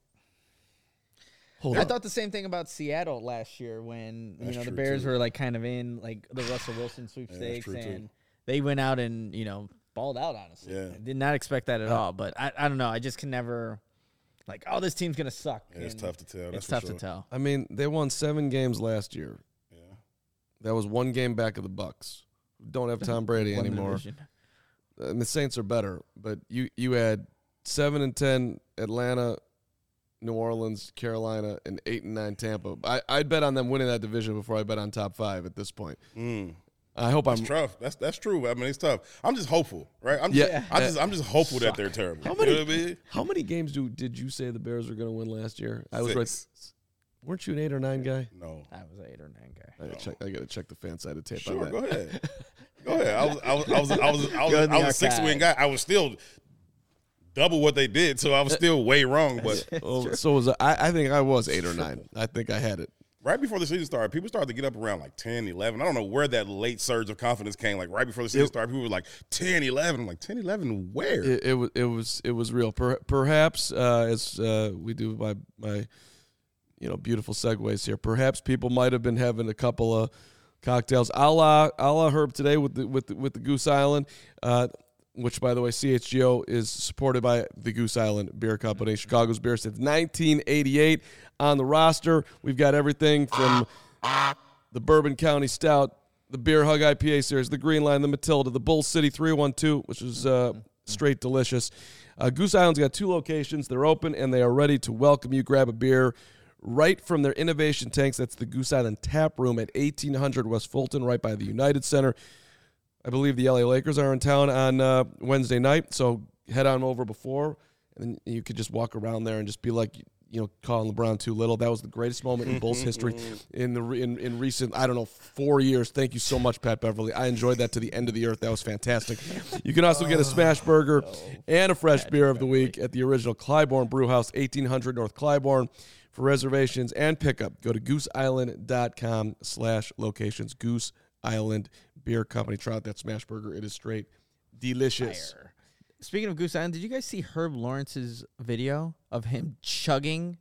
Hold I on. thought the same thing about Seattle last year when you That's know the true, Bears too. were like kind of in like the Russell Wilson sweepstakes, true, too. and they went out and you know balled out. Honestly, Yeah. I did not expect that at all. But I, I don't know. I just can never like, oh, this team's gonna suck. Yeah, it's and tough to tell. That's It's for tough sure. to tell. I mean, they won seven games last year. Yeah. That was one game back of the Bucks. Don't have Tom Brady One anymore. division. And the Saints are better, but you you had seven and ten Atlanta, New Orleans, Carolina, and eight and nine Tampa. I I'd bet on them winning that division before I bet on top five at this point. Mm. I hope I'm. It's tough. That's that's true. I mean, it's tough. I'm just hopeful, right? I'm Yeah. just, I just I'm just hopeful that they're terrible. How You many? know what I mean? How many games do did you say the Bears were going to win last year? I was Six. right. Weren't you an eight or nine guy? No. I was an eight or nine guy. I gotta check. I got to check the fan side of tape Sure, on go that. ahead. Go ahead. I was I was I was I was I was, Go in the I was a six archive. win guy. I was still double what they did, so I was still way wrong. But Oh, so was I, I think I was eight or nine. I think I had it. right before the season started, people started to get up around like ten, eleven. I don't know where that late surge of confidence came. Like right before the season started, people were like ten, eleven. I'm like, ten, eleven, where? It, it was it was it was real. Per, perhaps uh, as uh, we do my my you know beautiful segues here. Perhaps people might have been having a couple of cocktails, a la a la Herb today with the with the, with the Goose Island. Uh, which, by the way, C H G O is supported by the Goose Island Beer Company, Chicago's beer since nineteen eighty-eight. On the roster, we've got everything from the Bourbon County Stout, the Beer Hug I P A series, the Green Line, the Matilda, the Bull City three one two, which is uh, straight delicious. Uh, Goose Island's got two locations. They're open, and they are ready to welcome you. Grab a beer right from their innovation tanks. That's the Goose Island Tap Room at eighteen hundred West Fulton, right by the United Center. I believe the L A Lakers are in town on uh, Wednesday night, so head on over before, and then you could just walk around there and just be like, you know, calling LeBron too little. That was the greatest moment in Bulls history in the in, in recent, I don't know, four years. Thank you so much, Pat Beverly. I enjoyed that to the end of the earth. That was fantastic. You can also get a smash burger and a fresh beer of the week at the original Clybourne Brewhouse, eighteen hundred North Clybourne. For reservations and pickup, go to gooseisland.com slash locations. Goose Island Beer Company. Try out that smash burger. It is straight delicious. Fire. Speaking of Goose Island, did you guys see Herb Lawrence's video of him chugging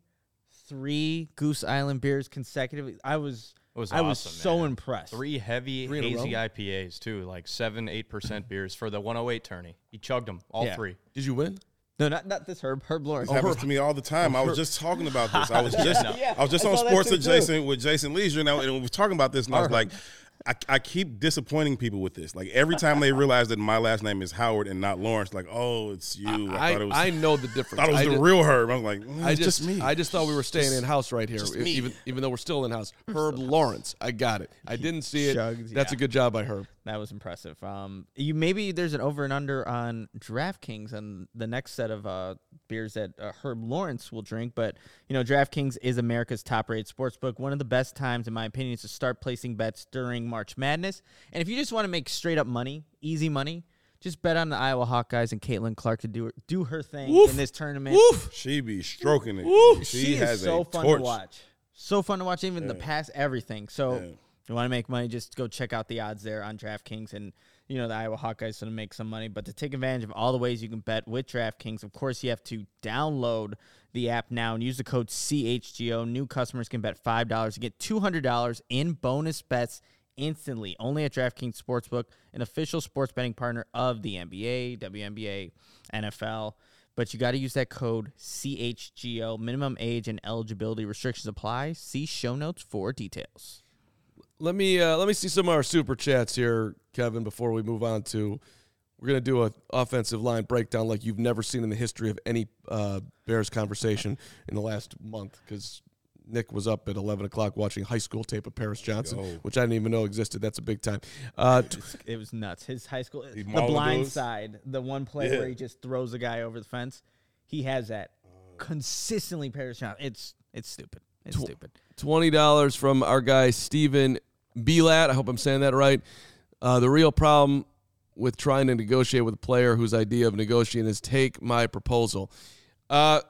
three Goose Island beers consecutively? I was, It was I was awesome, so man. impressed. Three heavy, Three in a hazy row? I P As, too, like seven, eight percent beers for the one oh eight tourney. He chugged them, all Yeah. three. Did you win? No, not not this Herb. Herb Lawrence. This happens to me all the time. I was just talking about this. I was just Yeah, I was just I on saw that Sports too, Adjacent with Jason Leisure, and, I, and we were talking about this, and I was like, I, I keep disappointing people with this. Like every time they realize that my last name is Howard and not Lawrence, like, oh, it's you. I, I, thought it was, I know the difference. thought it was I the did- real Herb. I was like, mm, I it's just, just me. I just thought we were staying in house right here, just me. even even though we're still in house. Herb Lawrence, I got it. I didn't see it. Shugs, That's yeah. a good job by Herb. That was impressive. Um, you maybe there's an over and under on DraftKings on the next set of uh, beers that uh, Herb Lawrence will drink. But you know, DraftKings is America's top-rated sportsbook. One of the best times, in my opinion, is to start placing bets during March Madness. And if you just want to make straight-up money, easy money, just bet on the Iowa Hawkeyes and Caitlin Clark to do her, do her thing Woof. in this tournament. Woof. She be stroking it. She, She has is so a fun torch. to watch. So fun to watch, even the pass, everything. So Yeah. if you want to make money, just go check out the odds there on DraftKings. And, you know, the Iowa Hawkeyes going to make some money. But to take advantage of all the ways you can bet with DraftKings, of course, you have to download the app now and use the code C H G O. New customers can bet five dollars to get two hundred dollars in bonus bets instantly. Only at DraftKings Sportsbook, an official sports betting partner of the N B A, W N B A, N F L. But you got to use that code C H G O. Minimum age and eligibility restrictions apply. See show notes for details. Let me uh, let me see some of our super chats here, Kevin. Before we move on to, we're gonna do an offensive line breakdown like you've never seen in the history of any uh, Bears conversation in the last month. Because Nick was up at eleven o'clock watching high school tape of Paris Johnson, Yo. which I didn't even know existed. That's a big time. Uh, t- It was nuts. His high school, the mauling blind those? side, the one play Yeah. where he just throws a guy over the fence. He has that consistently. Paris Johnson. It's it's stupid. It's Tw- stupid. twenty dollars from our guy Steven Belat. I hope I'm saying that right. Uh, the real problem with trying to negotiate with a player whose idea of negotiating is take my proposal. Uh,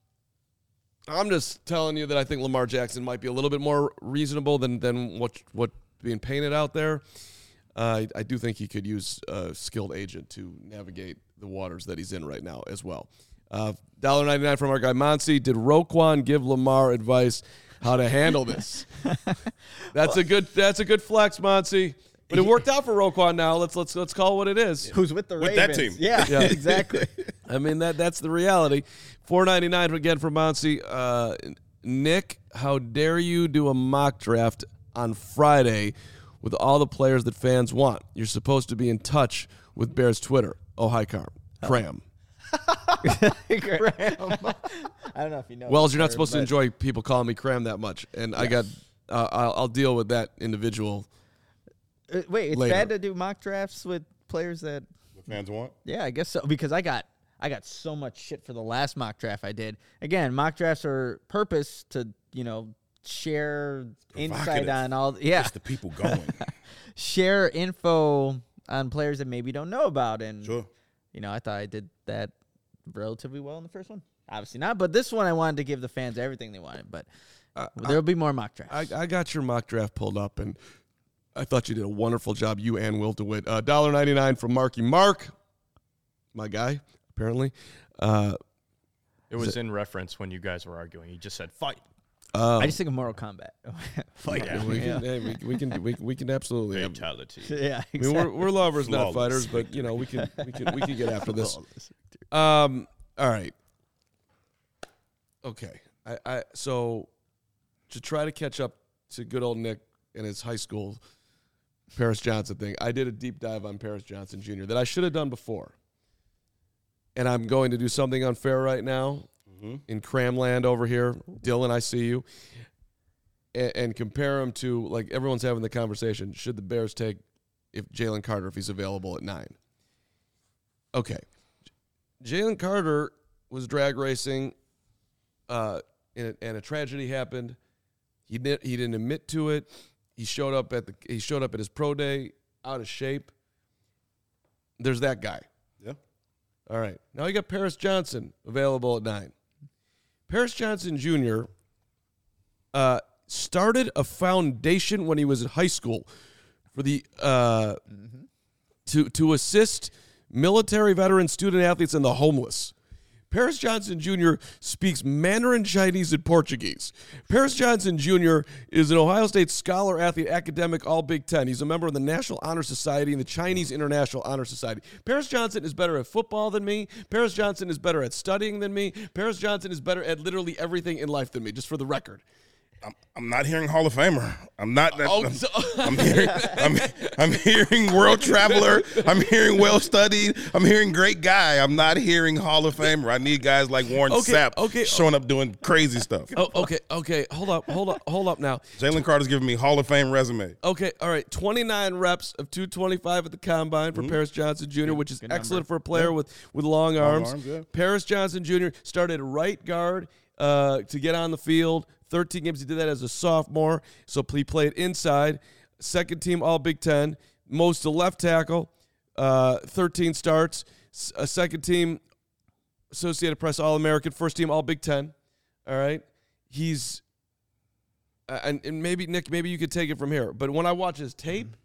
I'm just telling you that I think Lamar Jackson might be a little bit more reasonable than than what what being painted out there. Uh, I, I do think he could use a skilled agent to navigate the waters that he's in right now as well. Uh, one dollar ninety-nine from our guy Monsi. Did Roquan give Lamar advice how to handle this? That's a good. That's a good flex, Monsi. But it worked out for Roquan. Now let's let's let's call it what it is. Who's with the With that Ravens? team. Yeah, Yeah. exactly. I mean that that's the reality. four ninety-nine again from Monsi. Uh, Nick, how dare you do a mock draft on Friday with all the players that fans want? You're supposed to be in touch with Bears Twitter. Oh, hi, Carm. Cram. Graham. I don't know if you know. Wells, this you're not word, supposed to but enjoy people calling me Cram that much, and I got. Uh, I'll, I'll deal with that individual. Uh, wait, it's later. bad to do mock drafts with players that. The fans want. Yeah, I guess so. Because I got I got so much shit for the last mock draft I did. Again, mock drafts are purpose to you know share insight Provocative. on all. Yeah, It's the people going. share info on players that maybe don't know about. And, Sure. you know, I thought I did that relatively well in the first one. Obviously not, but this one I wanted to give the fans everything they wanted. But Uh, there'll be more mock drafts. I, I got your mock draft pulled up, and I thought you did a wonderful job, you and Will DeWitt. Uh, one dollar ninety-nine from Marky Mark, my guy, apparently. Uh, It was in reference when you guys were arguing. He just said, fight. um, I just think of Mortal Kombat. Fight. Yeah. we, can, hey, we, we can we, we can absolutely have, Fatality. Yeah, I mean, we're, we're lovers, not Flawless fighters, but you know we can we can we can get after this. Um, all right. Okay. I, I so to try to catch up to good old Nick and his high school Paris Johnson thing, I did a deep dive on Paris Johnson Junior that I should have done before. And I'm going to do something unfair right now Mm-hmm. in Cramland over here. Dylan, I see you. And, and compare him to, like, everyone's having the conversation. Should the Bears take if Jalen Carter if he's available at nine? Okay. Jalen Carter was drag racing, uh, and, a, and a tragedy happened. He didn't. He didn't admit to it. He showed up at the. He showed up at his pro day out of shape. There's that guy. Yeah. All right. Now you got Paris Johnson available at nine. Paris Johnson Junior Uh, started a foundation when he was in high school for the uh, mm-hmm. to to assist military veteran student athletes and the homeless. Paris Johnson Junior speaks Mandarin, Chinese, and Portuguese. Paris Johnson Junior is an Ohio State scholar, athlete, academic, all Big Ten. He's a member of the National Honor Society and the Chinese International Honor Society. Paris Johnson is better at football than me. Paris Johnson is better at studying than me. Paris Johnson is better at literally everything in life than me, just for the record. I'm, I'm not hearing Hall of Famer. I'm not. That, Oh, I'm, so- I'm hearing. I'm, I'm hearing world traveler. I'm hearing well studied. I'm hearing great guy. I'm not hearing Hall of Famer. I need guys like Warren Okay, Sapp okay. showing up doing crazy stuff. Oh, okay, okay. Hold up, hold up, hold up now. Jalen Carter's giving me Hall of Fame resume. Okay, all right. twenty-nine reps of two twenty-five at the combine for Paris Johnson Junior, which is good excellent number. for a player with, with long arms. arms, yeah. Paris Johnson Junior started right guard uh, to get on the field. thirteen games. He did that as a sophomore, so he played inside. Second team All Big Ten. Most to left tackle. Uh, thirteen starts. S- a second team Associated Press All American. First team All Big Ten. All right. He's uh, and, and maybe Nick, maybe you could take it from here. But when I watch his tape,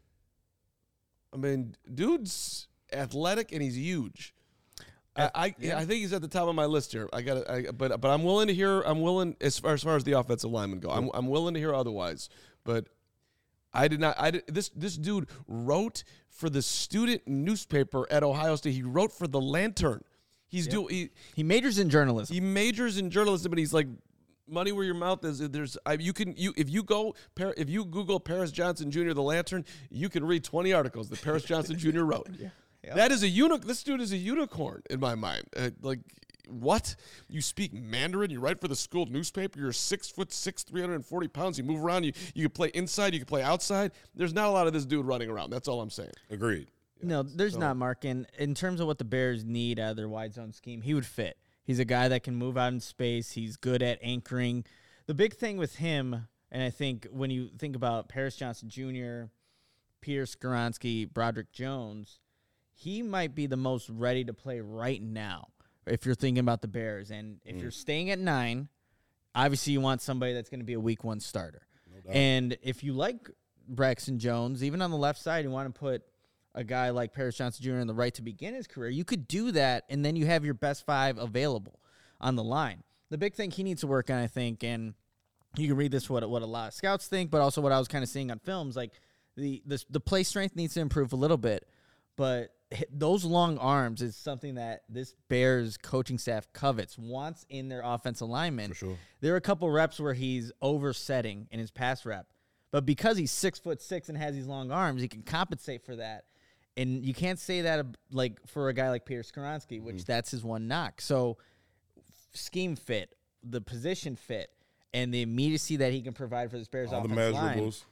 I mean, dude's athletic and he's huge. I I, yeah. I think he's at the top of my list here. I got I, but but I'm willing to hear. I'm willing as far as far as the offensive linemen go. I'm I'm willing to hear otherwise. But I did not. I did, this this dude wrote for the student newspaper at Ohio State. He wrote for the Lantern. He's Yep. do he He majors in journalism. he majors in journalism, but he's like money where your mouth is. There's I, you can you if you go Par- if you Google Paris Johnson Junior the Lantern, you can read twenty articles that Paris Johnson Junior wrote. Yep. That is a unicorn. This dude is a unicorn in my mind. Uh, like, what? You speak Mandarin. You write for the school newspaper. You're six foot six, three hundred and forty pounds. You move around. You you can play inside. You can play outside. There's not a lot of this dude running around. That's all I'm saying. Agreed. No, there's not, Mark. And in terms of what the Bears need out of their wide zone scheme, he would fit. He's a guy that can move out in space. He's good at anchoring. The big thing with him, and I think when you think about Paris Johnson Junior, Peter Skoronski, Broderick Jones, he might be the most ready to play right now if you're thinking about the Bears. And if Mm. you're staying at nine, obviously you want somebody that's going to be a week one starter. No and if you like Braxton Jones, even on the left side, you want to put a guy like Paris Johnson Junior on the right to begin his career, you could do that, and then you have your best five available on the line. The big thing he needs to work on, I think, and you can read this what what a lot of scouts think, but also what I was kind of seeing on films, like the the, the play strength needs to improve a little bit, but those long arms is something that this Bears coaching staff covets, wants in their offensive linemen. For sure. There are a couple reps where he's oversetting in his pass rep, but because he's six foot six and has these long arms, he can compensate for that. And you can't say that like for a guy like Peter Skoronski, which mm-hmm. that's his one knock. So scheme fit, the position fit, and the immediacy that he can provide for this Bears All the offensive line. measurables.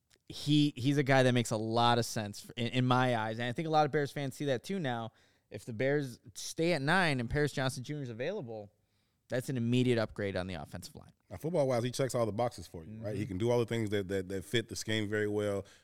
He he's a guy that makes a lot of sense in, in my eyes, and I think a lot of Bears fans see that too now. If the Bears stay at nine and Paris Johnson Junior is available, that's an immediate upgrade on the offensive line. Now, football-wise, he checks all the boxes for you, right? Mm-hmm. He can do all the things that, that that fit the scheme very well.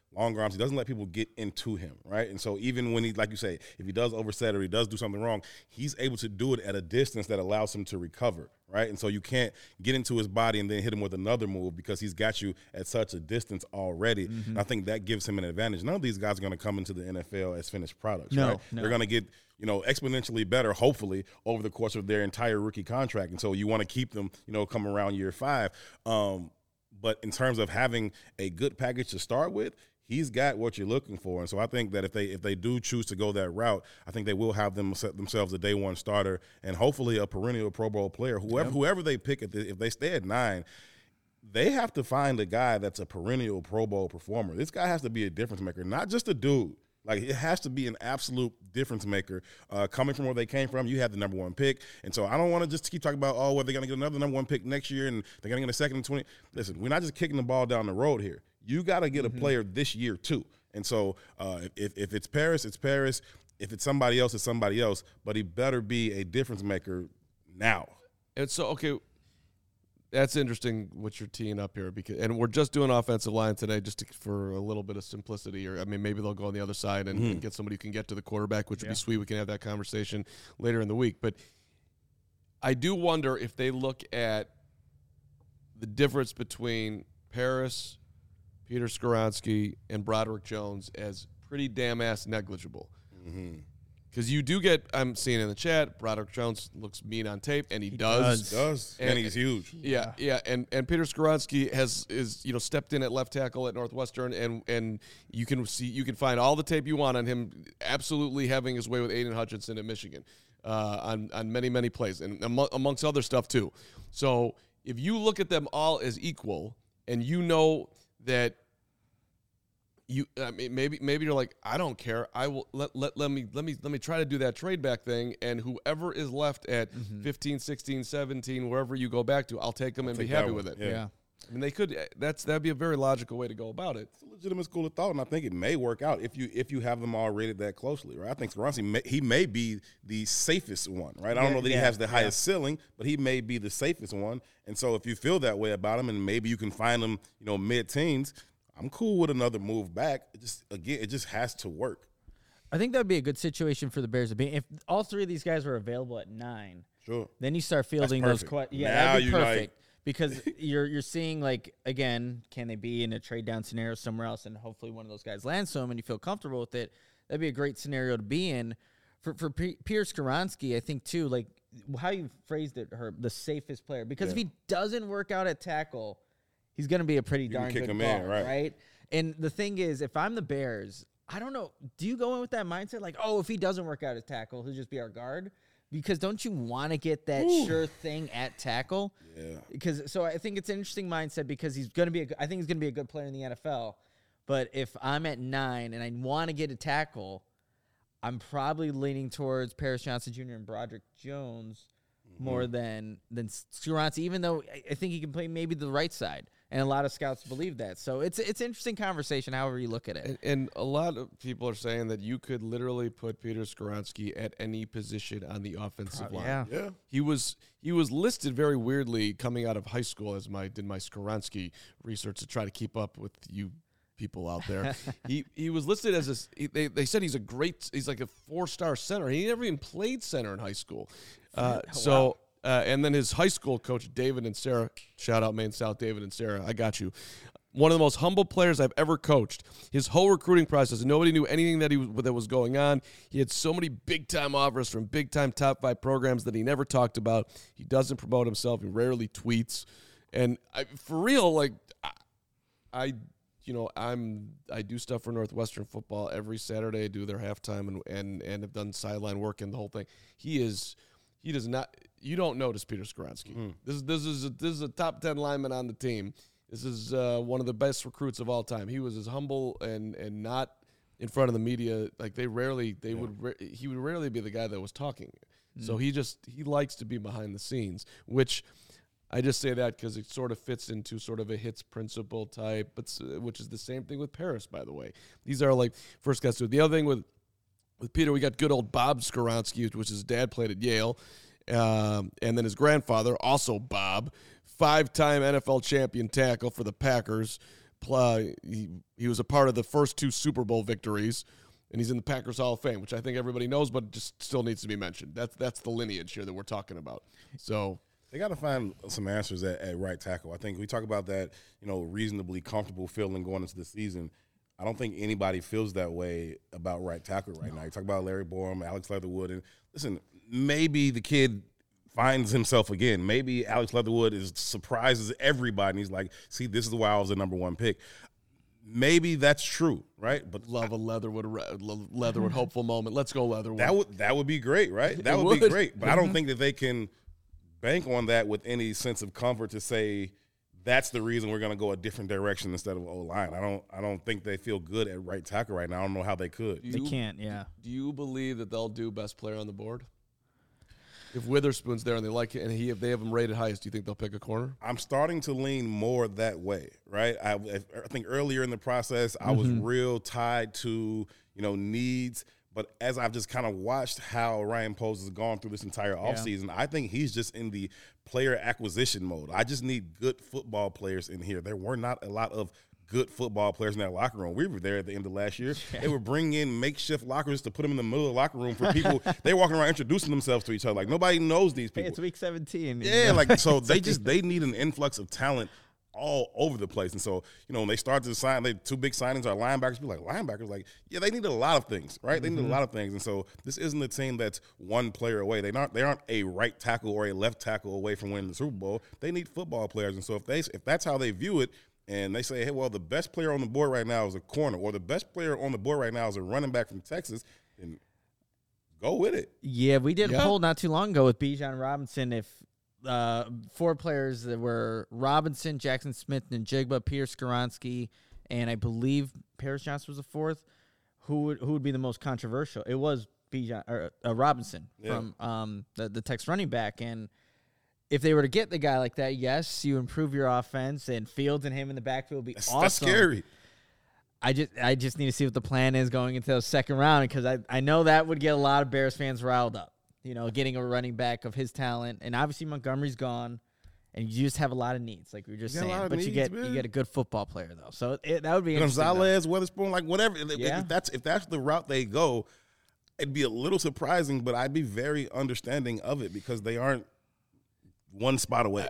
long arms. He doesn't let people get into him, right? And so even when he, like you say, if he does overset or he does do something wrong, he's able to do it at a distance that allows him to recover, right? And so you can't get into his body and then hit him with another move because he's got you at such a distance already. Mm-hmm. And I think that gives him an advantage. None of these guys are going to come into the N F L as finished products, no, right? No. They're going to get, you know, exponentially better, hopefully, over the course of their entire rookie contract. And so you want to keep them, you know, come around year five. Um, but in terms of having a good package to start with, he's got what you're looking for. And so I think that if they if they do choose to go that route, I think they will have them set themselves a day one starter and hopefully a perennial Pro Bowl player. Whoever, yep. whoever they pick, at the, if they stay at nine, they have to find a guy that's a perennial Pro Bowl performer. This guy has to be a difference maker, not just a dude. Like, it has to be an absolute difference maker. Uh, coming from where they came from, you had the number one pick. And so I don't want to just keep talking about, oh, well, they're going to get another number one pick next year and they're going to get a second and twenty. Listen, we're not just kicking the ball down the road here. You got to get mm-hmm. a player this year, too. And so uh, if, if it's Paris, it's Paris. If it's somebody else, it's somebody else. But he better be a difference maker now. And so, okay, that's interesting what you're teeing up here, because, and we're just doing offensive line today just to, for a little bit of simplicity. Or I mean, maybe they'll go on the other side and, mm-hmm. and get somebody who can get to the quarterback, which would yeah. be sweet. We can have that conversation later in the week. But I do wonder if they look at the difference between Paris, Peter Skoronski, and Broderick Jones as pretty damn ass negligible. Mm-hmm. Because you do get, I'm seeing in the chat, Broderick Jones looks mean on tape, and he, he does. does. does. And, and he's huge. Yeah, yeah. And and Peter Skoronski has is you know stepped in at left tackle at Northwestern, and and you can see you can find all the tape you want on him, absolutely having his way with Aiden Hutchinson at Michigan, uh, on on many many plays, and among, amongst other stuff too. So if you look at them all as equal, and you know that. You, I mean, maybe, maybe you're like, I don't care. I will let, let, let me, let me, let me try to do that trade back thing. And whoever is left at mm-hmm. fifteen, sixteen, seventeen, wherever you go back to, I'll take them I'll and be happy with it. Yeah. yeah. I mean, they could, that's, that'd be a very logical way to go about it. It's a legitimate school of thought. And I think it may work out if you, if you have them all rated that closely, right? I think Skoronski, may, he may be the safest one, right? I don't yeah, know that yeah, he has the highest yeah. ceiling, but he may be the safest one. And so if you feel that way about him and maybe you can find him, you know, mid-teens, I'm cool with another move back. It just again, it just has to work. I think that would be a good situation for the Bears to be. If all three of these guys were available at nine, sure. Then you start fielding those questions. Yeah, now that'd be perfect like because you're you're seeing like again, can they be in a trade down scenario somewhere else, and hopefully one of those guys lands some, and you feel comfortable with it. That'd be a great scenario to be in for for P- Pierce Skoronski. I think too, like how you phrased it, Herb, the safest player. Because yeah. if he doesn't work out at tackle, he's going to be a pretty you darn kick good him guard, in, right? right? And the thing is, if I'm the Bears, I don't know. Do you go in with that mindset like, oh, if he doesn't work out at tackle, he'll just be our guard? Because don't you want to get that Ooh. sure thing at tackle? Yeah. Because so I think it's an interesting mindset because he's going to be. A, I think he's going to be a good player in the N F L. But if I'm at nine and I want to get a tackle, I'm probably leaning towards Paris Johnson Junior and Broderick Jones mm-hmm. more than than Skoronski, even though I think he can play maybe the right side. And a lot of scouts believe that. So it's it's an interesting conversation, however you look at it. And, and a lot of people are saying that you could literally put Peter Skoronski at any position on the offensive Probably, line. Yeah. yeah. He was he was listed very weirdly coming out of high school as my did my Skoronski research to try to keep up with you people out there. he he was listed as a he, they they said he's a great he's like a four-star center. He never even played center in high school. Uh, oh, so wow. Uh, and then his high school coach, David and Sarah, shout out Maine South, David and Sarah, I got you. One of the most humble players I've ever coached. His whole recruiting process, nobody knew anything that he was, that was going on. He had so many big-time offers from big-time top five programs that he never talked about. He doesn't promote himself. He rarely tweets. And I, for real, like, I, I, you know, I'm I do stuff for Northwestern football every Saturday. I do their halftime and and and have done sideline work and the whole thing. He is. He does not. You don't notice Peter Skoronski. Mm. This, this is a, this is a top ten lineman on the team. This is uh, one of the best recruits of all time. He was as humble and and not in front of the media. Like they rarely, they yeah. would. Ra- he would rarely be the guy that was talking. Mm. So he just he likes to be behind the scenes. Which I just say that because it sort of fits into sort of a hits principle type, but which is the same thing with Paris, by the way. These are like first guys. So the other thing with. With Peter, we got good old Bob Skoronski, which his dad played at Yale. Um, and then his grandfather, also Bob, five-time N F L champion tackle for the Packers, uh, he, he was a part of the first two Super Bowl victories, and he's in the Packers Hall of Fame, which I think everybody knows, but just still needs to be mentioned. That's that's the lineage here that we're talking about. So they got to find some answers at, at right tackle. I think we talk about that, you know, reasonably comfortable feeling going into the season. I don't think anybody feels that way about right tackle right no. now. You talk about Larry Borom, Alex Leatherwood, and listen, maybe the kid finds himself again. Maybe Alex Leatherwood is surprises everybody, and he's like, see, this is why I was the number one pick. Maybe that's true, right? But love a Leatherwood, Leatherwood hopeful moment. Let's go Leatherwood. That would that would be great, right? That would, would be great. But mm-hmm. I don't think that they can bank on that with any sense of comfort to say that's the reason we're going to go a different direction instead of O-line. I don't I don't think they feel good at right tackle right now. I don't know how they could. You, they can't, yeah. Do you believe that they'll do best player on the board? If Witherspoon's there and they like it, and he if they have him rated highest, do you think they'll pick a corner? I'm starting to lean more that way, right? I, I think earlier in the process, I was mm-hmm. real tied to, you know, needs. But as I've just kind of watched how Ryan Poles has gone through this entire offseason, yeah. I think he's just in the player acquisition mode. I just need good football players in here. There were not a lot of good football players in that locker room. We were there at the end of last year. Yeah. They were bringing in makeshift lockers to put them in the middle of the locker room for people. They were walking around introducing themselves to each other. Like, nobody knows these people. Hey, it's week seventeen. Yeah, like, so they just, they need an influx of talent all over the place. And so, you know, when they start to sign, they two big signings are linebackers. People like, linebackers? Like, yeah, they need a lot of things, right? They mm-hmm. need a lot of things. And so this isn't a team that's one player away. They aren't, they aren't a right tackle or a left tackle away from winning the Super Bowl. They need football players. And so if they if that's how they view it, and they say, hey, well, the best player on the board right now is a corner, or the best player on the board right now is a running back from Texas, and go with it. Yeah, we did yeah. a poll not too long ago with Bijan Robinson. If uh, four players that were Robinson, Jackson Smith, and Njigba, Peter Skoronski, and I believe Paris Johnson was the fourth, who would who would be the most controversial? It was Bijan or uh, Robinson yeah. from um, the the Texas running back, and if they were to get the guy like that, yes, you improve your offense, and Fields and him in the backfield would be that's, awesome. That's scary. I just I just need to see what the plan is going into the second round, because I, I know that would get a lot of Bears fans riled up, you know, getting a running back of his talent. And obviously Montgomery's gone, and you just have a lot of needs, like we were just you saying. But needs, you get man. you get a good football player, though. So it, that would be interesting. Gonzalez, Witherspoon, like whatever. Yeah. If, that's, if that's the route they go, it'd be a little surprising, but I'd be very understanding of it because they aren't one spot away.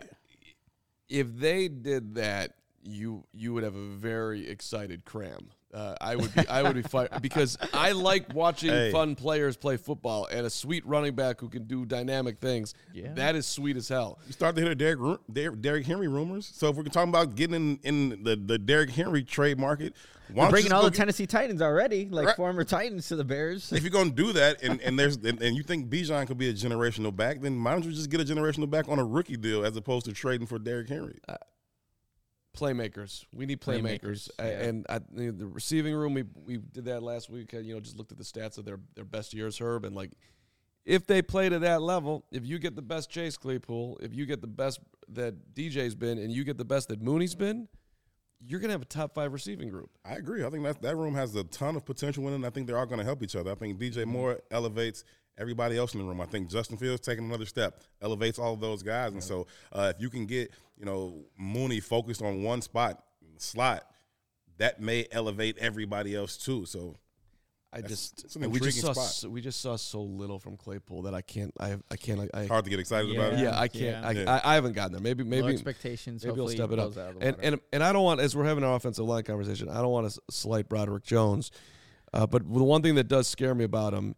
If they did that, you you would have a very excited cram. Uh, I would be I would be fine because I like watching hey. fun players play football, and a sweet running back who can do dynamic things. Yeah. That is sweet as hell. You start to hear the Derrick, Derrick Henry rumors. So if we're talking about getting in, in the, the Derrick Henry trade market, we're bringing all the get, Tennessee Titans already, like right. former Titans to the Bears. If you're going to do that, and, and there's and, and you think Bijan could be a generational back, then why don't you just get a generational back on a rookie deal as opposed to trading for Derrick Henry? Uh, Playmakers. We need playmakers. playmakers yeah. And I, the receiving room, we we did that last week. You know, just looked at the stats of their, their best years, Herb. And, like, if they play to that level, if you get the best Chase Claypool, if you get the best that D J's been, and you get the best that Mooney's been, you're going to have a top five receiving group. I agree. I think that, that room has a ton of potential in it, and I think they're all going to help each other. I think D J Moore elevates everybody else in the room. I think Justin Fields taking another step, elevates all of those guys. And so uh, if you can get, you know, Mooney focused on one spot, slot, that may elevate everybody else too. So I just we just saw so, we just saw so little from Claypool that I can't I I can't I, hard to get excited yeah, about it. Yeah, I can't. Yeah. I, yeah. I I haven't gotten there. Maybe maybe Low expectations. Maybe he'll step it up. And and and I don't want, as we're having our offensive line conversation, I don't want to slight Broderick Jones, uh, but the one thing that does scare me about him,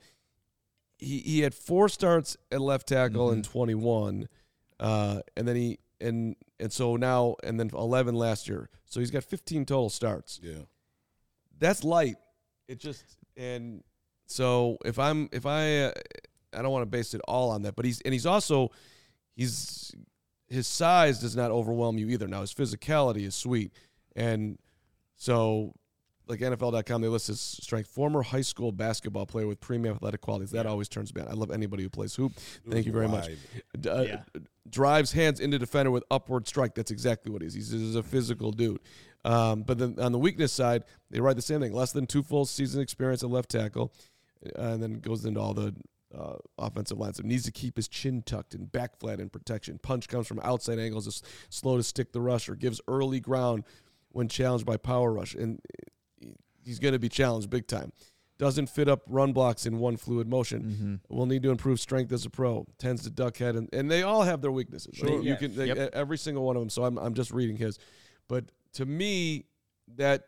he he had four starts at left tackle mm-hmm. in twenty-one, uh, and then he and and so now and then eleven last year. So he's got fifteen total starts. Yeah, that's light. It just and. So if I'm if I uh, I don't want to base it all on that, but he's and he's also he's his size does not overwhelm you either. Now his physicality is sweet, and so like N F L dot com they list his strength: former high school basketball player with premium athletic qualities. That always turns me on. I love anybody who plays hoop. Thank you very wide. much. Uh, yeah. Drives hands into defender with upward strike. That's exactly what he is. He's, he's a physical dude. Um, but then on the weakness side, they write the same thing: less than two full season experience at left tackle. Uh, and then goes into all the uh, offensive lines. So needs to keep his chin tucked and back flat in protection. Punch comes from outside angles, is slow to stick the rusher, gives early ground when challenged by power rush, and he's going to be challenged big time. Doesn't fit up run blocks in one fluid motion. Mm-hmm. Will need to improve strength as a pro. Tends to duck head, and, and they all have their weaknesses. Sure. They- you Yes. can they, Yep. every single one of them. So I'm I'm just reading his, but to me, that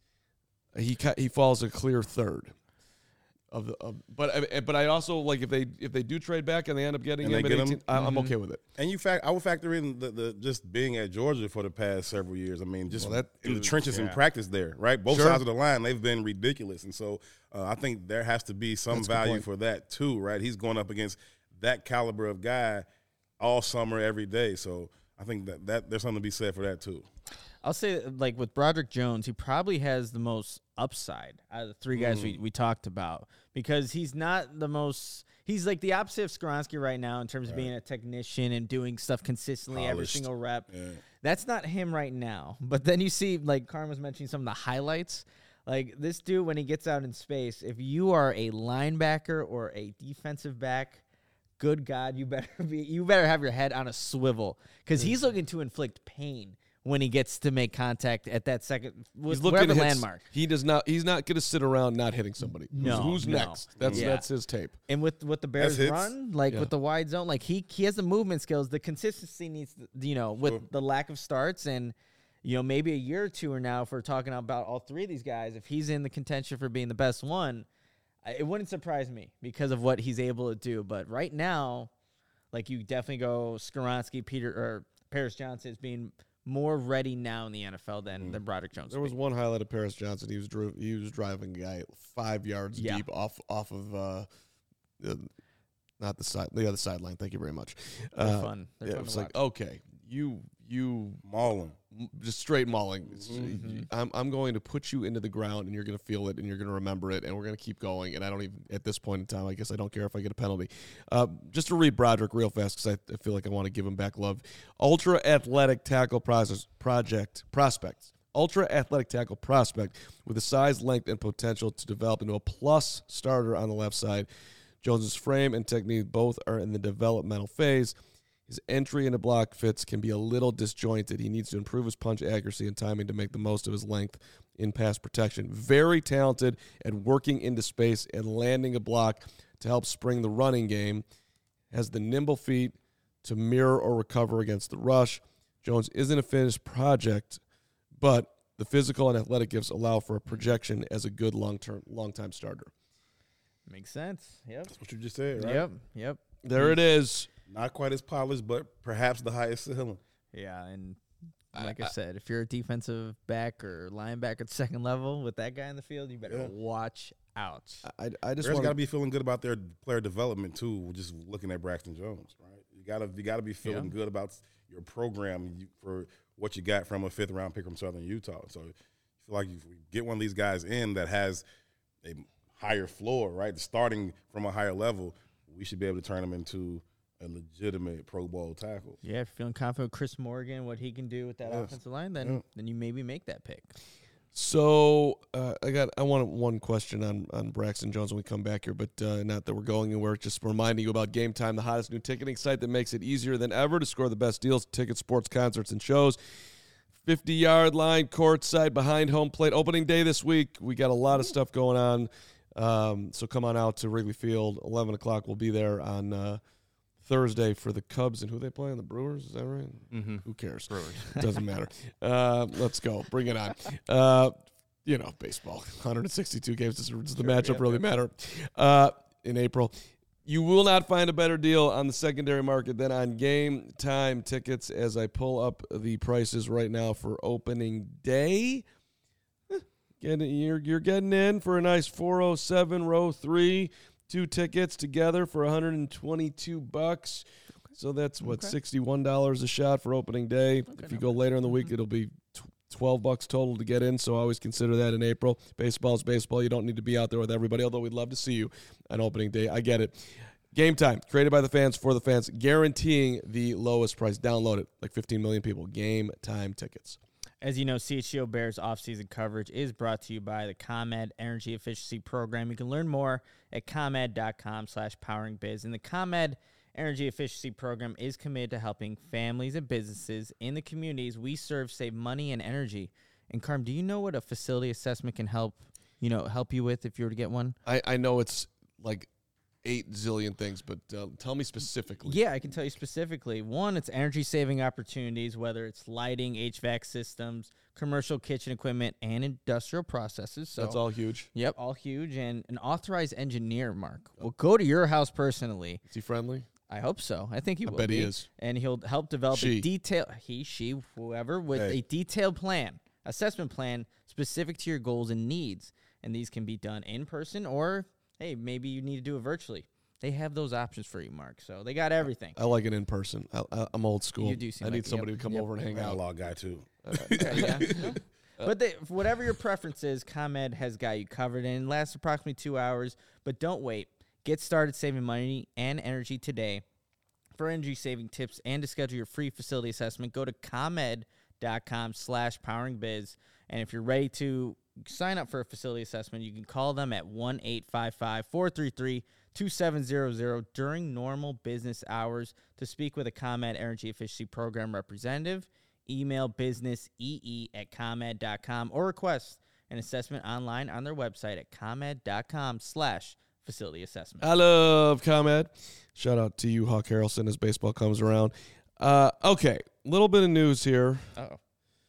he ca- he falls a clear third. Of the, of, but I- but I also like if they if they do trade back and they end up getting And him they at get him? eighteen, I, I'm Mm-hmm. okay with it. And you fact, I would factor in the, the just being at Georgia for the past several years. I mean, just Well, that in the is- trenches in yeah. practice there, right? Both Sure. sides of the line, they've been ridiculous, and so uh, I think there has to be some That's a good value point. for that too, right? He's going up against that caliber of guy all summer, every day. So I think that, that there's something to be said for that too. I'll say, like, with Broderick Jones, he probably has the most upside out of the three guys we, we talked about because he's not the most – he's like the opposite of Skoronski right now in terms of being a technician and doing stuff consistently every Polished. single rep. Yeah. That's not him right now. But then you see, like Carm was mentioning some of the highlights. Like, this dude, when he gets out in space, if you are a linebacker or a defensive back – good God, you better be you better have your head on a swivel because he's looking to inflict pain when he gets to make contact at that second with He's looking wherever to hit, landmark. He does not. He's not going to sit around not hitting somebody. Who's- No, who's, no. next? That's Yeah. that's his tape. And with what the Bears hits. run, like Yeah. with the wide zone, like he he has the movement skills. The consistency needs, you know, with Sure. the lack of starts and you know maybe a year or two or now, if we're talking about all three of these guys, if he's in the contention for being the best one, I- it wouldn't surprise me because of what he's able to do. But right now, like you definitely go Skoronski, Peter or Paris Johnson as being more ready now in the N F L than than Broderick Jones. There was one highlight of Paris Johnson. He was dri- he was driving a guy five yards Yeah. deep off off of uh, the, not the side the other sideline. Thank you very much. They're Uh, fun. They're yeah, fun it was to like watch. okay, you you Mauling. m- just straight mauling. It's- Mm-hmm. I'm I'm going to put you into the ground and you're going to feel it and you're going to remember it and we're going to keep going. And I don't even at this point in time, I guess I don't care if I get a penalty. Uh, just to read Broderick real fast because I, I feel like I want to give him back love. Ultra athletic tackle process project prospects. Ultra athletic tackle prospect with the size, length, and potential to develop into a plus starter on the left side. Jones's frame and technique both are in the developmental phase. His entry into block fits can be a little disjointed. He needs to improve his punch accuracy and timing to make the most of his length in pass protection. Very talented at working into space and landing a block to help spring the running game. Has the nimble feet to mirror or recover against the rush. Jones isn't a finished project, but the physical and athletic gifts allow for a projection as a good long-term, long-time starter. Makes sense. Yep. That's what you just said, right? Yep. Yep. There it is. Not quite as polished, but perhaps the highest ceiling. Yeah, and like I, said, if you're a defensive back or linebacker at second level with that guy in the field, you better Yeah. watch out. I, I just Bears want got to be feeling good about their player development too. Just looking at Braxton Jones, right? You gotta you gotta be feeling Yeah. good about your program you, for what you got from a fifth round pick from Southern Utah. So you feel like if we get one of these guys in that has a higher floor, right? Starting from a higher level, we should be able to turn him into a legitimate Pro Bowl tackle. Yeah, if you're feeling confident with Chris Morgan, what he can do with that Yes. offensive line, then Yeah. then you maybe make that pick. So uh, I got I want one question on, on Braxton Jones when we come back here, but uh, not that we're going anywhere. Just reminding you about Game Time, the hottest new ticketing site that makes it easier than ever to score the best deals, tickets, sports, concerts, and shows. fifty-yard line, courtside, behind home plate. Opening day this week. We got a lot of stuff going on. Um, so come on out to Wrigley Field. eleven o'clock. We'll be there on uh, Thursday for the Cubs. And who they playing? The Brewers? Is that right? Mm-hmm. Who cares? Brewers. Doesn't matter. Uh, let's go. Bring it on. Uh, you know, baseball. one hundred sixty-two games. Does, does the matchup yeah, really yeah. matter? Uh, in April. You will not find a better deal on the secondary market than on Game Time tickets as I pull up the prices right now for opening day. Eh, Getting, you're, you're getting in for a nice four oh seven row three, two tickets together for one hundred twenty-two bucks. So that's what, Okay. sixty-one dollars a shot for opening day. If you go later in the Mm-hmm. week, it'll be tw- twelve bucks total to get in. So always consider that in April. Baseball's baseball. You don't need to be out there with everybody, although we'd love to see you on opening day. I get it. Game Time, created by the fans for the fans, guaranteeing the lowest price. Download it, like fifteen million people. Game Time tickets. As you know, C H G O Bears offseason coverage is brought to you by the ComEd Energy Efficiency Program. You can learn more at ComEd.com slash powering biz. And the ComEd Energy Efficiency Program is committed to helping families and businesses in the communities we serve save money and energy. And Carm, do you know what a facility assessment can help, you know, help you with if you were to get one? I, I know it's like eight zillion things, but uh, tell me specifically. Yeah, I can tell you specifically. One, it's energy-saving opportunities, whether it's lighting, H V A C systems, commercial kitchen equipment, and industrial processes. So That's all huge. Yep, all huge. And an authorized engineer, Mark, will go to your house personally. Is he friendly? I hope so. I think he I will bet be. he is. And he'll help develop She. a detail, he, she, whoever, with Hey. a detailed plan, assessment plan specific to your goals and needs. And these can be done in person or, hey, maybe you need to do it virtually. They have those options for you, Mark. So they got everything. I like it in person. I, I, I'm old school. You do seem I need like- somebody yep, to come yep. over and hang out. Analog guy too. Okay, yeah. But they, whatever your preference is, ComEd has got you covered, and it lasts approximately two hours. But don't wait. Get started saving money and energy today. For energy saving tips and to schedule your free facility assessment, go to ComEd.com slash poweringbiz. And if you're ready to sign up for a facility assessment, you can call them at one eight five five, four three three, two seven zero zero during normal business hours to speak with a ComEd Energy Efficiency Program representative. Email businessee at ComEd dot com or request an assessment online on their website at ComEd.com slash facility assessment. I love ComEd. Shout out to you, Hawk Harrelson, as baseball comes around. Uh, okay, little bit of news here. Uh-oh.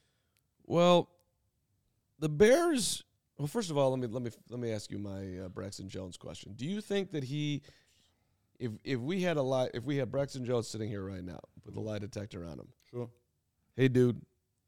Well, the Bears. Well, first of all, let me let me let me ask you my uh, Braxton Jones question. Do you think that he, if if we had a lie, if we had Braxton Jones sitting here right now with a lie detector on him, Sure. hey dude,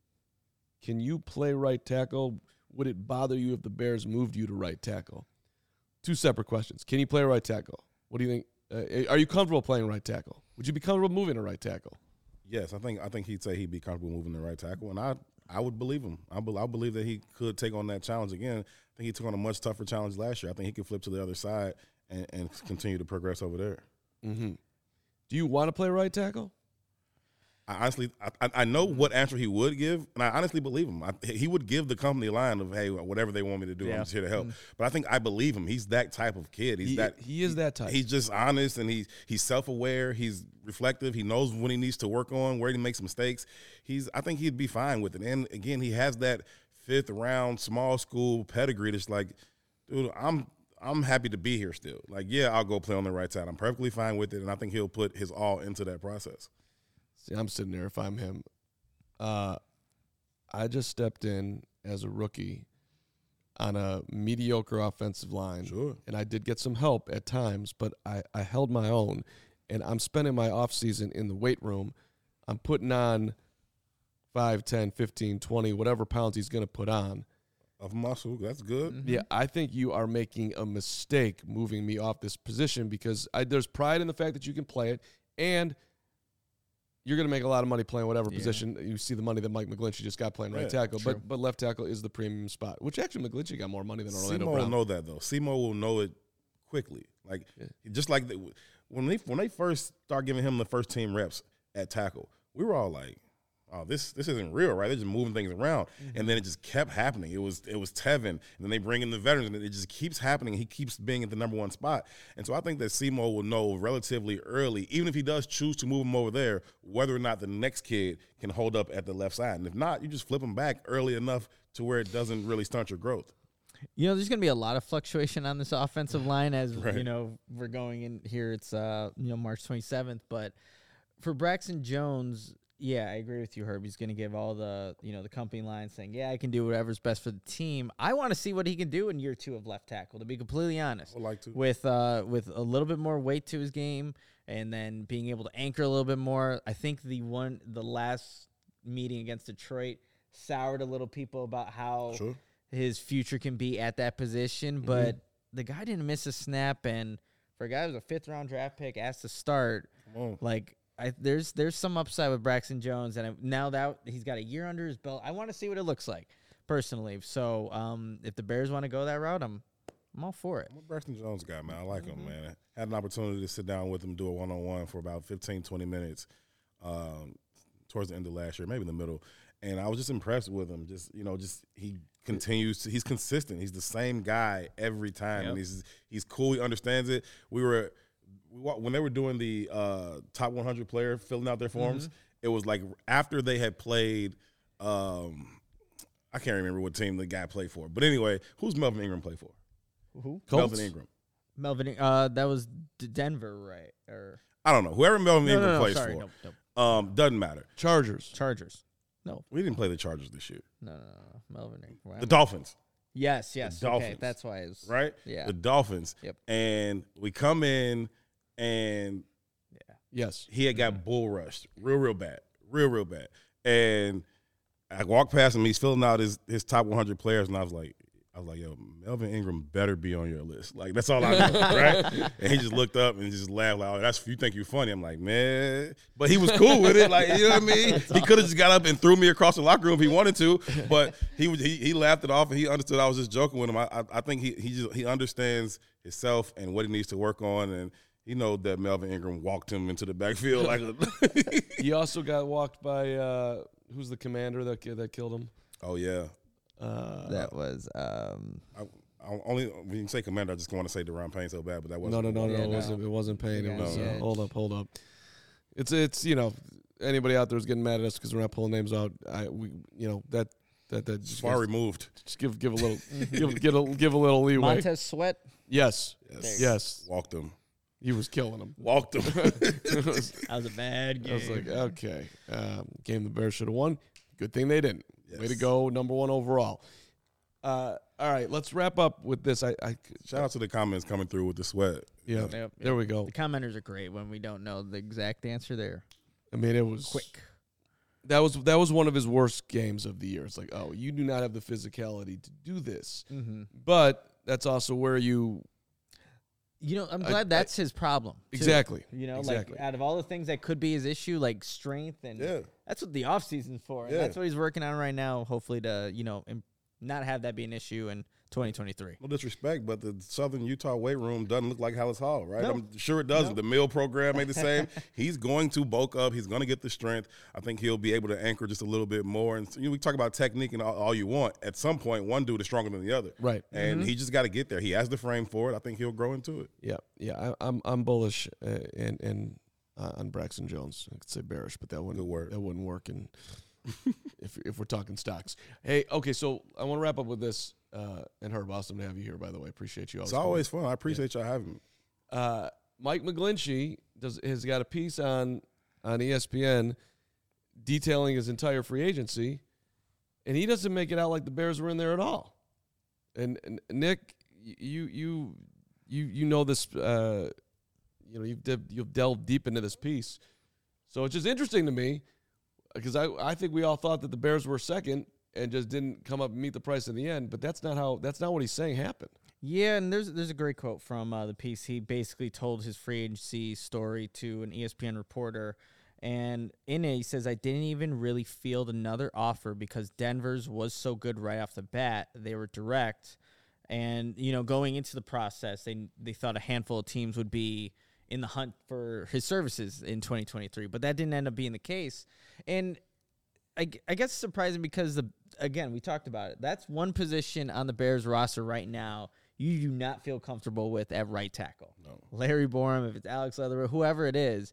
can you play right tackle? Would it bother you if the Bears moved you to right tackle? Two separate questions. Can you play right tackle? What do you think? Uh, are you comfortable playing right tackle? Would you be comfortable moving to right tackle? Yes, I think I think he'd say he'd be comfortable moving the right tackle, and I I would believe him. I, be, I believe that he could take on that challenge again. I think he took on a much tougher challenge last year. I think he could flip to the other side and, and continue to progress over there. Mm-hmm. Do you want to play right tackle? I honestly, I, I know what answer he would give, and I honestly believe him. I, he would give the company a line of, "Hey, whatever they want me to do, Yeah. I'm just here to help." But I think I believe him. He's that type of kid. He's He, that. he is that type. He's just honest, and he he's self aware. He's reflective. He knows when he needs to work on, where he makes mistakes. He's. I think he'd be fine with it. And again, he has that fifth round small school pedigree. That's like, dude, I'm. I'm happy to be here still. Like, yeah, I'll go play on the right side. I'm perfectly fine with it, and I think he'll put his all into that process. See, I'm sitting there if I'm him. Uh, I just stepped in as a rookie on a mediocre offensive line. Sure. And I did get some help at times, but I, I held my own. And I'm spending my offseason in the weight room. I'm putting on five, ten, fifteen, twenty, whatever pounds he's going to put on. Of muscle, that's good. Mm-hmm. Yeah, I think you are making a mistake moving me off this position because I, there's pride in the fact that you can play it, and you're going to make a lot of money playing whatever Yeah. position. You see the money that Mike McGlinchey just got playing right Yeah, tackle, true. but but left tackle is the premium spot, which actually McGlinchey got more money than Seymour Orlando will Brown. know that though. Seymour will know it quickly. Like just like the, when they when they first start giving him the first team reps at tackle, we were all like, "Oh, this this isn't real, right?" They're just moving things around, Mm-hmm. and then it just kept happening. It was it was Tevin, and then they bring in the veterans, and it just keeps happening. He keeps being at the number one spot, and so I think that Seymour will know relatively early, even if he does choose to move him over there, whether or not the next kid can hold up at the left side, and if not, you just flip him back early enough to where it doesn't really stunt your growth. You know, there's going to be a lot of fluctuation on this offensive line as, Right. you know, we're going in here. It's, uh, you know, March twenty-seventh. But for Braxton Jones, yeah, I agree with you, Herb. He's going to give all the, you know, the company line saying, yeah, I can do whatever's best for the team. I want to see what he can do in year two of left tackle, to be completely honest. I'd like to. With, uh, with a little bit more weight to his game and then being able to anchor a little bit more. I think the one, the last meeting against Detroit soured a little people about how Sure. his future can be at that position, but the guy didn't miss a snap, and for a guy who was a fifth round draft pick asked to start, Come on. like I, there's there's some upside with Braxton Jones, and I, now that he's got a year under his belt, I want to see what it looks like personally. So um, if the Bears want to go that route, I'm I'm all for it. I'm a Braxton Jones guy, man. I like him, man. Had an opportunity to sit down with him, do a one-on-one for about fifteen, twenty minutes um, towards the end of last year, maybe in the middle. And I was just impressed with him. Just, you know, just he continues to, he's consistent. He's the same guy every time. Yep. And he's he's cool. He understands it. We were, we, wa- when they were doing the uh, top one hundred player filling out their forms, it was like after they had played, um, I can't remember what team the guy played for. But anyway, who's Melvin Ingram play for? Who? Colts? Melvin Ingram. Melvin. Uh, that was D- Denver, right? Or I don't know. Whoever Melvin no, Ingram no, no, plays sorry, for, no, no. um, doesn't matter. Chargers. Chargers. No, We didn't play the Chargers this year. no, no, no, no. Melvin Ingram. Wow. The Dolphins, Yes, yes. The Okay, Dolphins. that's why it's right? Yeah. The Dolphins. Yep. And we come in, and Yes. he had got bull rushed real, real bad. Real, real bad. And I walked past him. He's filling out his, his top one hundred players, and I was like, I was like, yo, Melvin Ingram better be on your list. Like, that's all I know, right? And he just looked up and just laughed like, oh, that's you think you're funny. I'm like, man. But he was cool with it. Like, you know what I mean? He could have just got up and threw me across the locker room if he wanted to. But he was he, he laughed it off, and he understood I was just joking with him. I I, I think he he just he understands himself and what he needs to work on, and he know that Melvin Ingram walked him into the backfield. Like, He also got walked by uh, who's the commander that that killed him? oh yeah. Uh, that was um. I, I only when you say commander, I just want to say Deron Payne so bad, but that no, wasn't. no, no, no, Yeah, it no. wasn't. It wasn't Payne. It Yeah, was. yeah. Uh, hold up, hold up. It's it's you know anybody out there is getting mad at us because we're not pulling names out. I we you know that that that It's just, far gives, removed. just give give a little give give a, give a little leeway. Montez Sweat. Yes, Yes. yes, Walked him. he was killing him. Walked him. It was- That was a bad game. I was like, okay, um, game the Bears should have won. Good thing they didn't. Way to Yes. go, number one overall. Uh, all right, let's wrap up with this. I, I Shout out to the comments coming through with the sweat. yeah, Yep, yep. there we go. The commenters are great when we don't know the exact answer there. I mean, it was Quick. That was that was one of his worst games of the year. It's like, oh, you do not have the physicality to do this. Mm-hmm. But that's also where you You know, I'm I- glad I- that's his problem. too. exactly. You know, exactly. like out of all the things that could be his issue, like strength and Yeah. that's what the off season's for. And Yeah. that's what he's working on right now, hopefully to, you know, im- not have that be an issue in twenty twenty-three. No disrespect, but the Southern Utah weight room doesn't look like Hallis Hall, right? No. I'm sure it doesn't. No. The meal program ain't the same. He's going to bulk up. He's going to get the strength. I think he'll be able to anchor just a little bit more. And you know, we talk about technique and all, all you want. At some point, one dude is stronger than the other, Right. and he just got to get there. He has the frame for it. I think he'll grow into it. Yeah, yeah. I, I'm I'm bullish uh, and and uh, on Braxton Jones. I could say bearish, but that wouldn't Good word. that wouldn't work. And if if we're talking stocks, hey, okay. So I want to wrap up with this. Uh, and Herb, awesome to have you here. By the way, appreciate you. It's coming. always fun. I appreciate y'all having me. Uh, Mike McGlinchey does has got a piece on on E S P N detailing his entire free agency, and he doesn't make it out like the Bears were in there at all. And, and Nick, you you you you know this. Uh, you know you've de- you've delved deep into this piece, so it's just interesting to me because I I think we all thought that the Bears were second and just didn't come up and meet the price in the end. But that's not how that's not what he's saying happened. Yeah, and there's there's a great quote from uh, the piece. He basically told his free agency story to an E S P N reporter, and in it he says, "I didn't even really field another offer because Denver's was so good right off the bat. They were direct, and you know, going into the process, they they thought a handful of teams would be in the hunt for his services in twenty twenty-three, but that didn't end up being the case, and." I, I guess it's surprising because, the again, we talked about it. That's one position on the Bears roster right now you do not feel comfortable with at right tackle. No. Larry Borum, if it's Alex Leatherwood, whoever it is.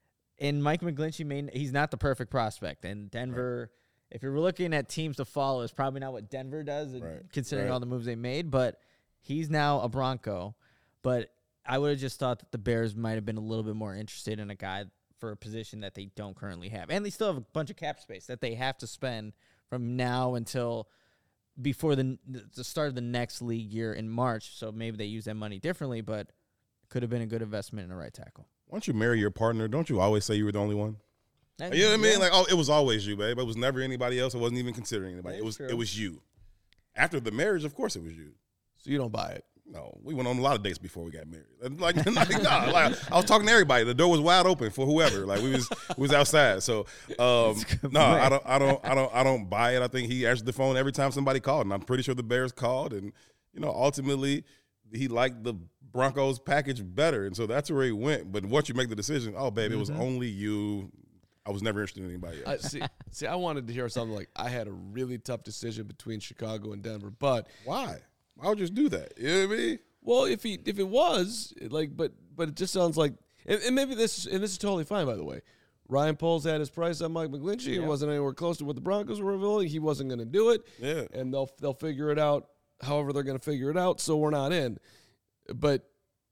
And Mike McGlinchey, may, he's not the perfect prospect. And Denver, right. if you're looking at teams to follow, is probably not what Denver does, Right. considering Right. all the moves they made. But he's now a Bronco. But I would have just thought that the Bears might have been a little bit more interested in a guy for a position that they don't currently have. And they still have a bunch of cap space that they have to spend from now until before the the start of the next league year in March. So maybe they use that money differently, but it could have been a good investment in a right tackle. Once you marry your partner, don't you always say you were the only one? And, You know what I mean? yeah. Like, oh, it was always you, babe. It was never anybody else. I wasn't even considering anybody. That's It was true. it was you. After the marriage, of course, it was you. So you don't buy it. No, we went on a lot of dates before we got married. Like, like, nah, like I was talking to everybody. The door was wide open for whoever. Like we was we was outside. So um, no, I don't, I don't, I don't, I don't buy it. I think he answered the phone every time somebody called, and I'm pretty sure the Bears called, and you know, ultimately he liked the Broncos package better, and so that's where he went. But once you make the decision, oh babe, it was only you. I was never interested in anybody I, else. see, see, I wanted to hear something like I had a really tough decision between Chicago and Denver, but Why? Why would you just do that? You know what I mean? well, if he if it was like, but but it just sounds like, and, and maybe this and this is totally fine, by the way. Ryan Poles had his price on Mike McGlinchey. Yeah. It wasn't anywhere close to what the Broncos were revealing. He wasn't going to do it. Yeah. And they'll they'll figure it out however they're going to figure it out, so we're not in. But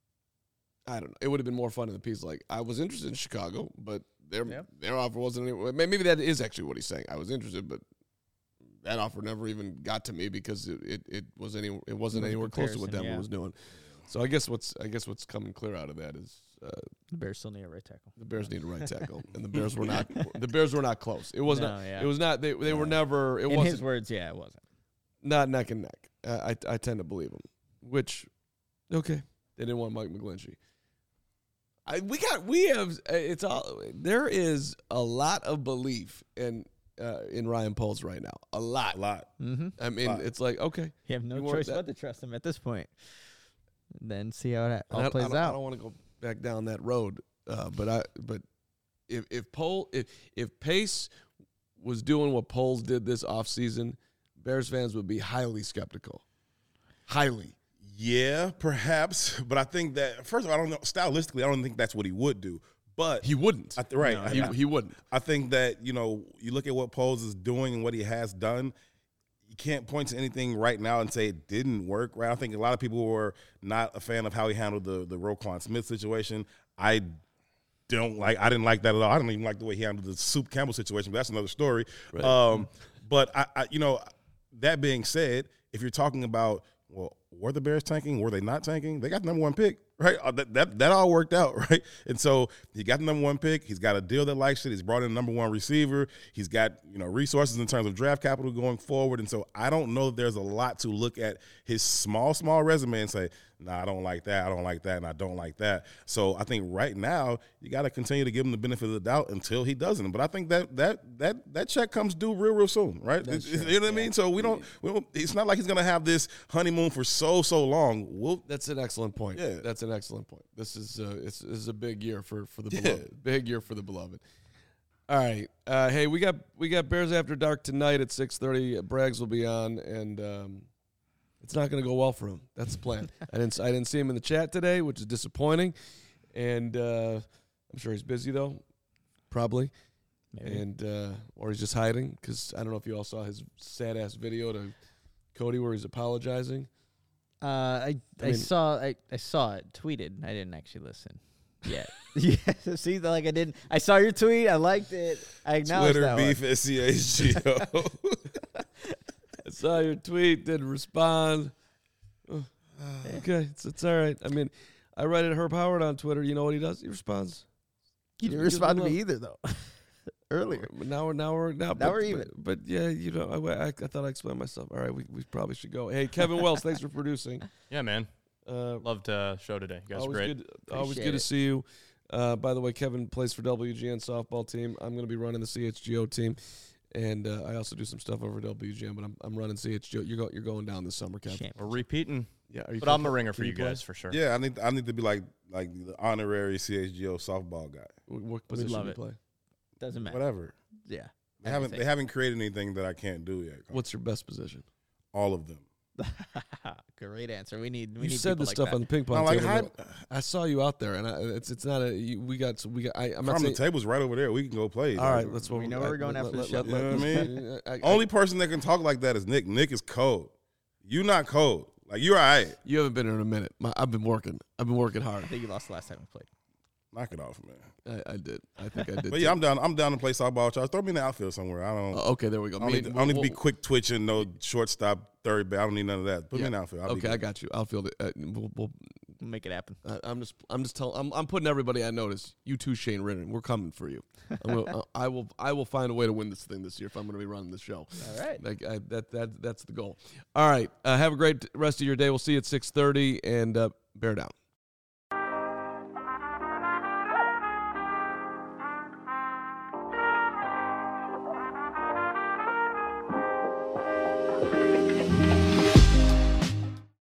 I don't know. It would have been more fun in the piece. Like, I was interested in Chicago, but their Yep. their offer wasn't any, maybe that is actually what he's saying. I was interested, but that offer never even got to me because it, it, it was any it wasn't The anywhere close to what comparison, Denver yeah. was doing. So I guess what's I guess what's coming clear out of that is uh, The Bears still need a right tackle. the Bears need a right tackle, and the Bears were not the Bears were not close. It was No, not. yeah. It was not. They they were never. It In wasn't his words, yeah, it wasn't. not neck and neck. Uh, I I tend to believe him. Which, okay, they didn't want Mike McGlinchey. I we got we have uh, it's all there is a lot of belief in uh, in Ryan Poles right now. A lot. A lot. Mm-hmm. I mean, lot. it's like okay, You have no You want choice that- but to trust him at this point. Then see how it And all I, plays I don't, out. I don't want to go back down that road, uh, but I but if if Pole if if Pace was doing what Poles did this offseason, Bears fans would be highly skeptical. Highly. Yeah, perhaps. But I think that, first of all, I don't know. Stylistically, I don't think that's what he would do. But He wouldn't. I th- right. No, I, he, I- he wouldn't. I think that, you know, you look at what Poles is doing and what he has done, you can't point to anything right now and say it didn't work, right? I think a lot of people were not a fan of how he handled the, the Roquan Smith situation. I don't like, I didn't like that at all. I don't even like the way he handled the Soup Campbell situation, but that's another story. Right. Um, but, I, I, you know, that being said, if you're talking about, well, were the Bears tanking? Were they not tanking? They got the number one pick, right? Uh, That, that that all worked out, right? And so he got the number one pick. He's got a deal that likes it. He's brought in a number one receiver. He's got, you know, resources in terms of draft capital going forward. And so I don't know if there's a lot to look at his small, small resume and say, nah, I don't like that, I don't like that, and I don't like that. So I think right now you got to continue to give him the benefit of the doubt until he doesn't. But I think that that that that check comes due real, real soon, right? That's It- it- true. you know what I mean? So we don't, we don't. It's not like he's gonna have this honeymoon for so so long. We'll That's an excellent point. Yeah. That's an excellent point. This is uh, it's, this is a big year for, for the Yeah. beloved. Big year for the beloved. All right. Uh, hey, we got we got Bears After Dark tonight at six thirty. Braggs will be on, and um, it's not going to go well for him. That's the plan. I didn't I didn't see him in the chat today, which is disappointing. And uh, I'm sure he's busy though, probably. Maybe. And uh, or he's just hiding because I don't know if you all saw his sad ass video to Cody where he's apologizing. Uh, I I, mean- saw I, I saw it tweeted. I didn't actually listen. Yeah, yeah. See, like I didn't. I saw your tweet. I liked it. I acknowledged Twitter that beef S C H G O. I saw your tweet, didn't respond. Oh, okay, it's, it's all right. I mean, I write it Herb Howard on Twitter. You know what he does? He responds. You didn't Gives respond to love. me either, though. Earlier. But now we're now we're now, Now but, we're even. But, but yeah, you know, I, I, I thought I explained myself. All right, we, we probably should go. Hey, Kevin Wells, thanks for producing. Yeah, man. Uh, Loved uh, show today. You guys are always great. good. Always Appreciate good to it. see you. Uh, by the way, Kevin plays for W G N softball team. I'm going to be running the C H G O team, and uh, I also do some stuff over at W G N. But I'm I'm running C H G O. You're go, you're going down this summer, Kevin. Shame. We're repeating. Yeah, are you But I'm a coming? ringer for Can you play? guys for sure. Yeah, I need I need to be like like the honorary C H G O softball guy. What, what position love do you it. play? Doesn't matter. Whatever. Yeah. They haven't they haven't created anything that I can't do yet. What's your best position? All of them. Great answer. We need. We You need said people this like stuff that. on the ping pong I'm like, table. how- though. I saw you out there, and I, it's it's not a you, we got we got. I, I'm not From the saying. table's right over there. We can go play. All right, let's. We know where we're going after the show. You know what I mean? I- I- Only person that can talk like that is Nick. Nick is cold. You not cold. Like you're all right. you haven't been here in a minute. My, I've been working. I've been working hard. I think you lost the last time we played. Knock it off, man. I, I did. I think I did. But yeah, I'm down. I'm down to play softball. Charles, throw me in the outfield somewhere. I don't. Uh, okay, there we go. I don't Me need, to, and- I don't need to be we'll- quick twitching, no shortstop, third base. I don't need none of that. Put Yeah. me in the outfield. I'll be Okay, I good. got you. Outfield. it. Uh, we'll, we'll, We'll make it happen. I- I'm just. I'm just telling. I'm. I'm putting everybody I notice. You too, Shane Ridden. We're coming for you. I'm gonna, uh, I will. I will find a way to win this thing this year if I'm going to be running the show. All right. Like I, that. That. That's the goal. All right. Uh, have a great rest of your day. We'll see you at six thirty and uh, bear down.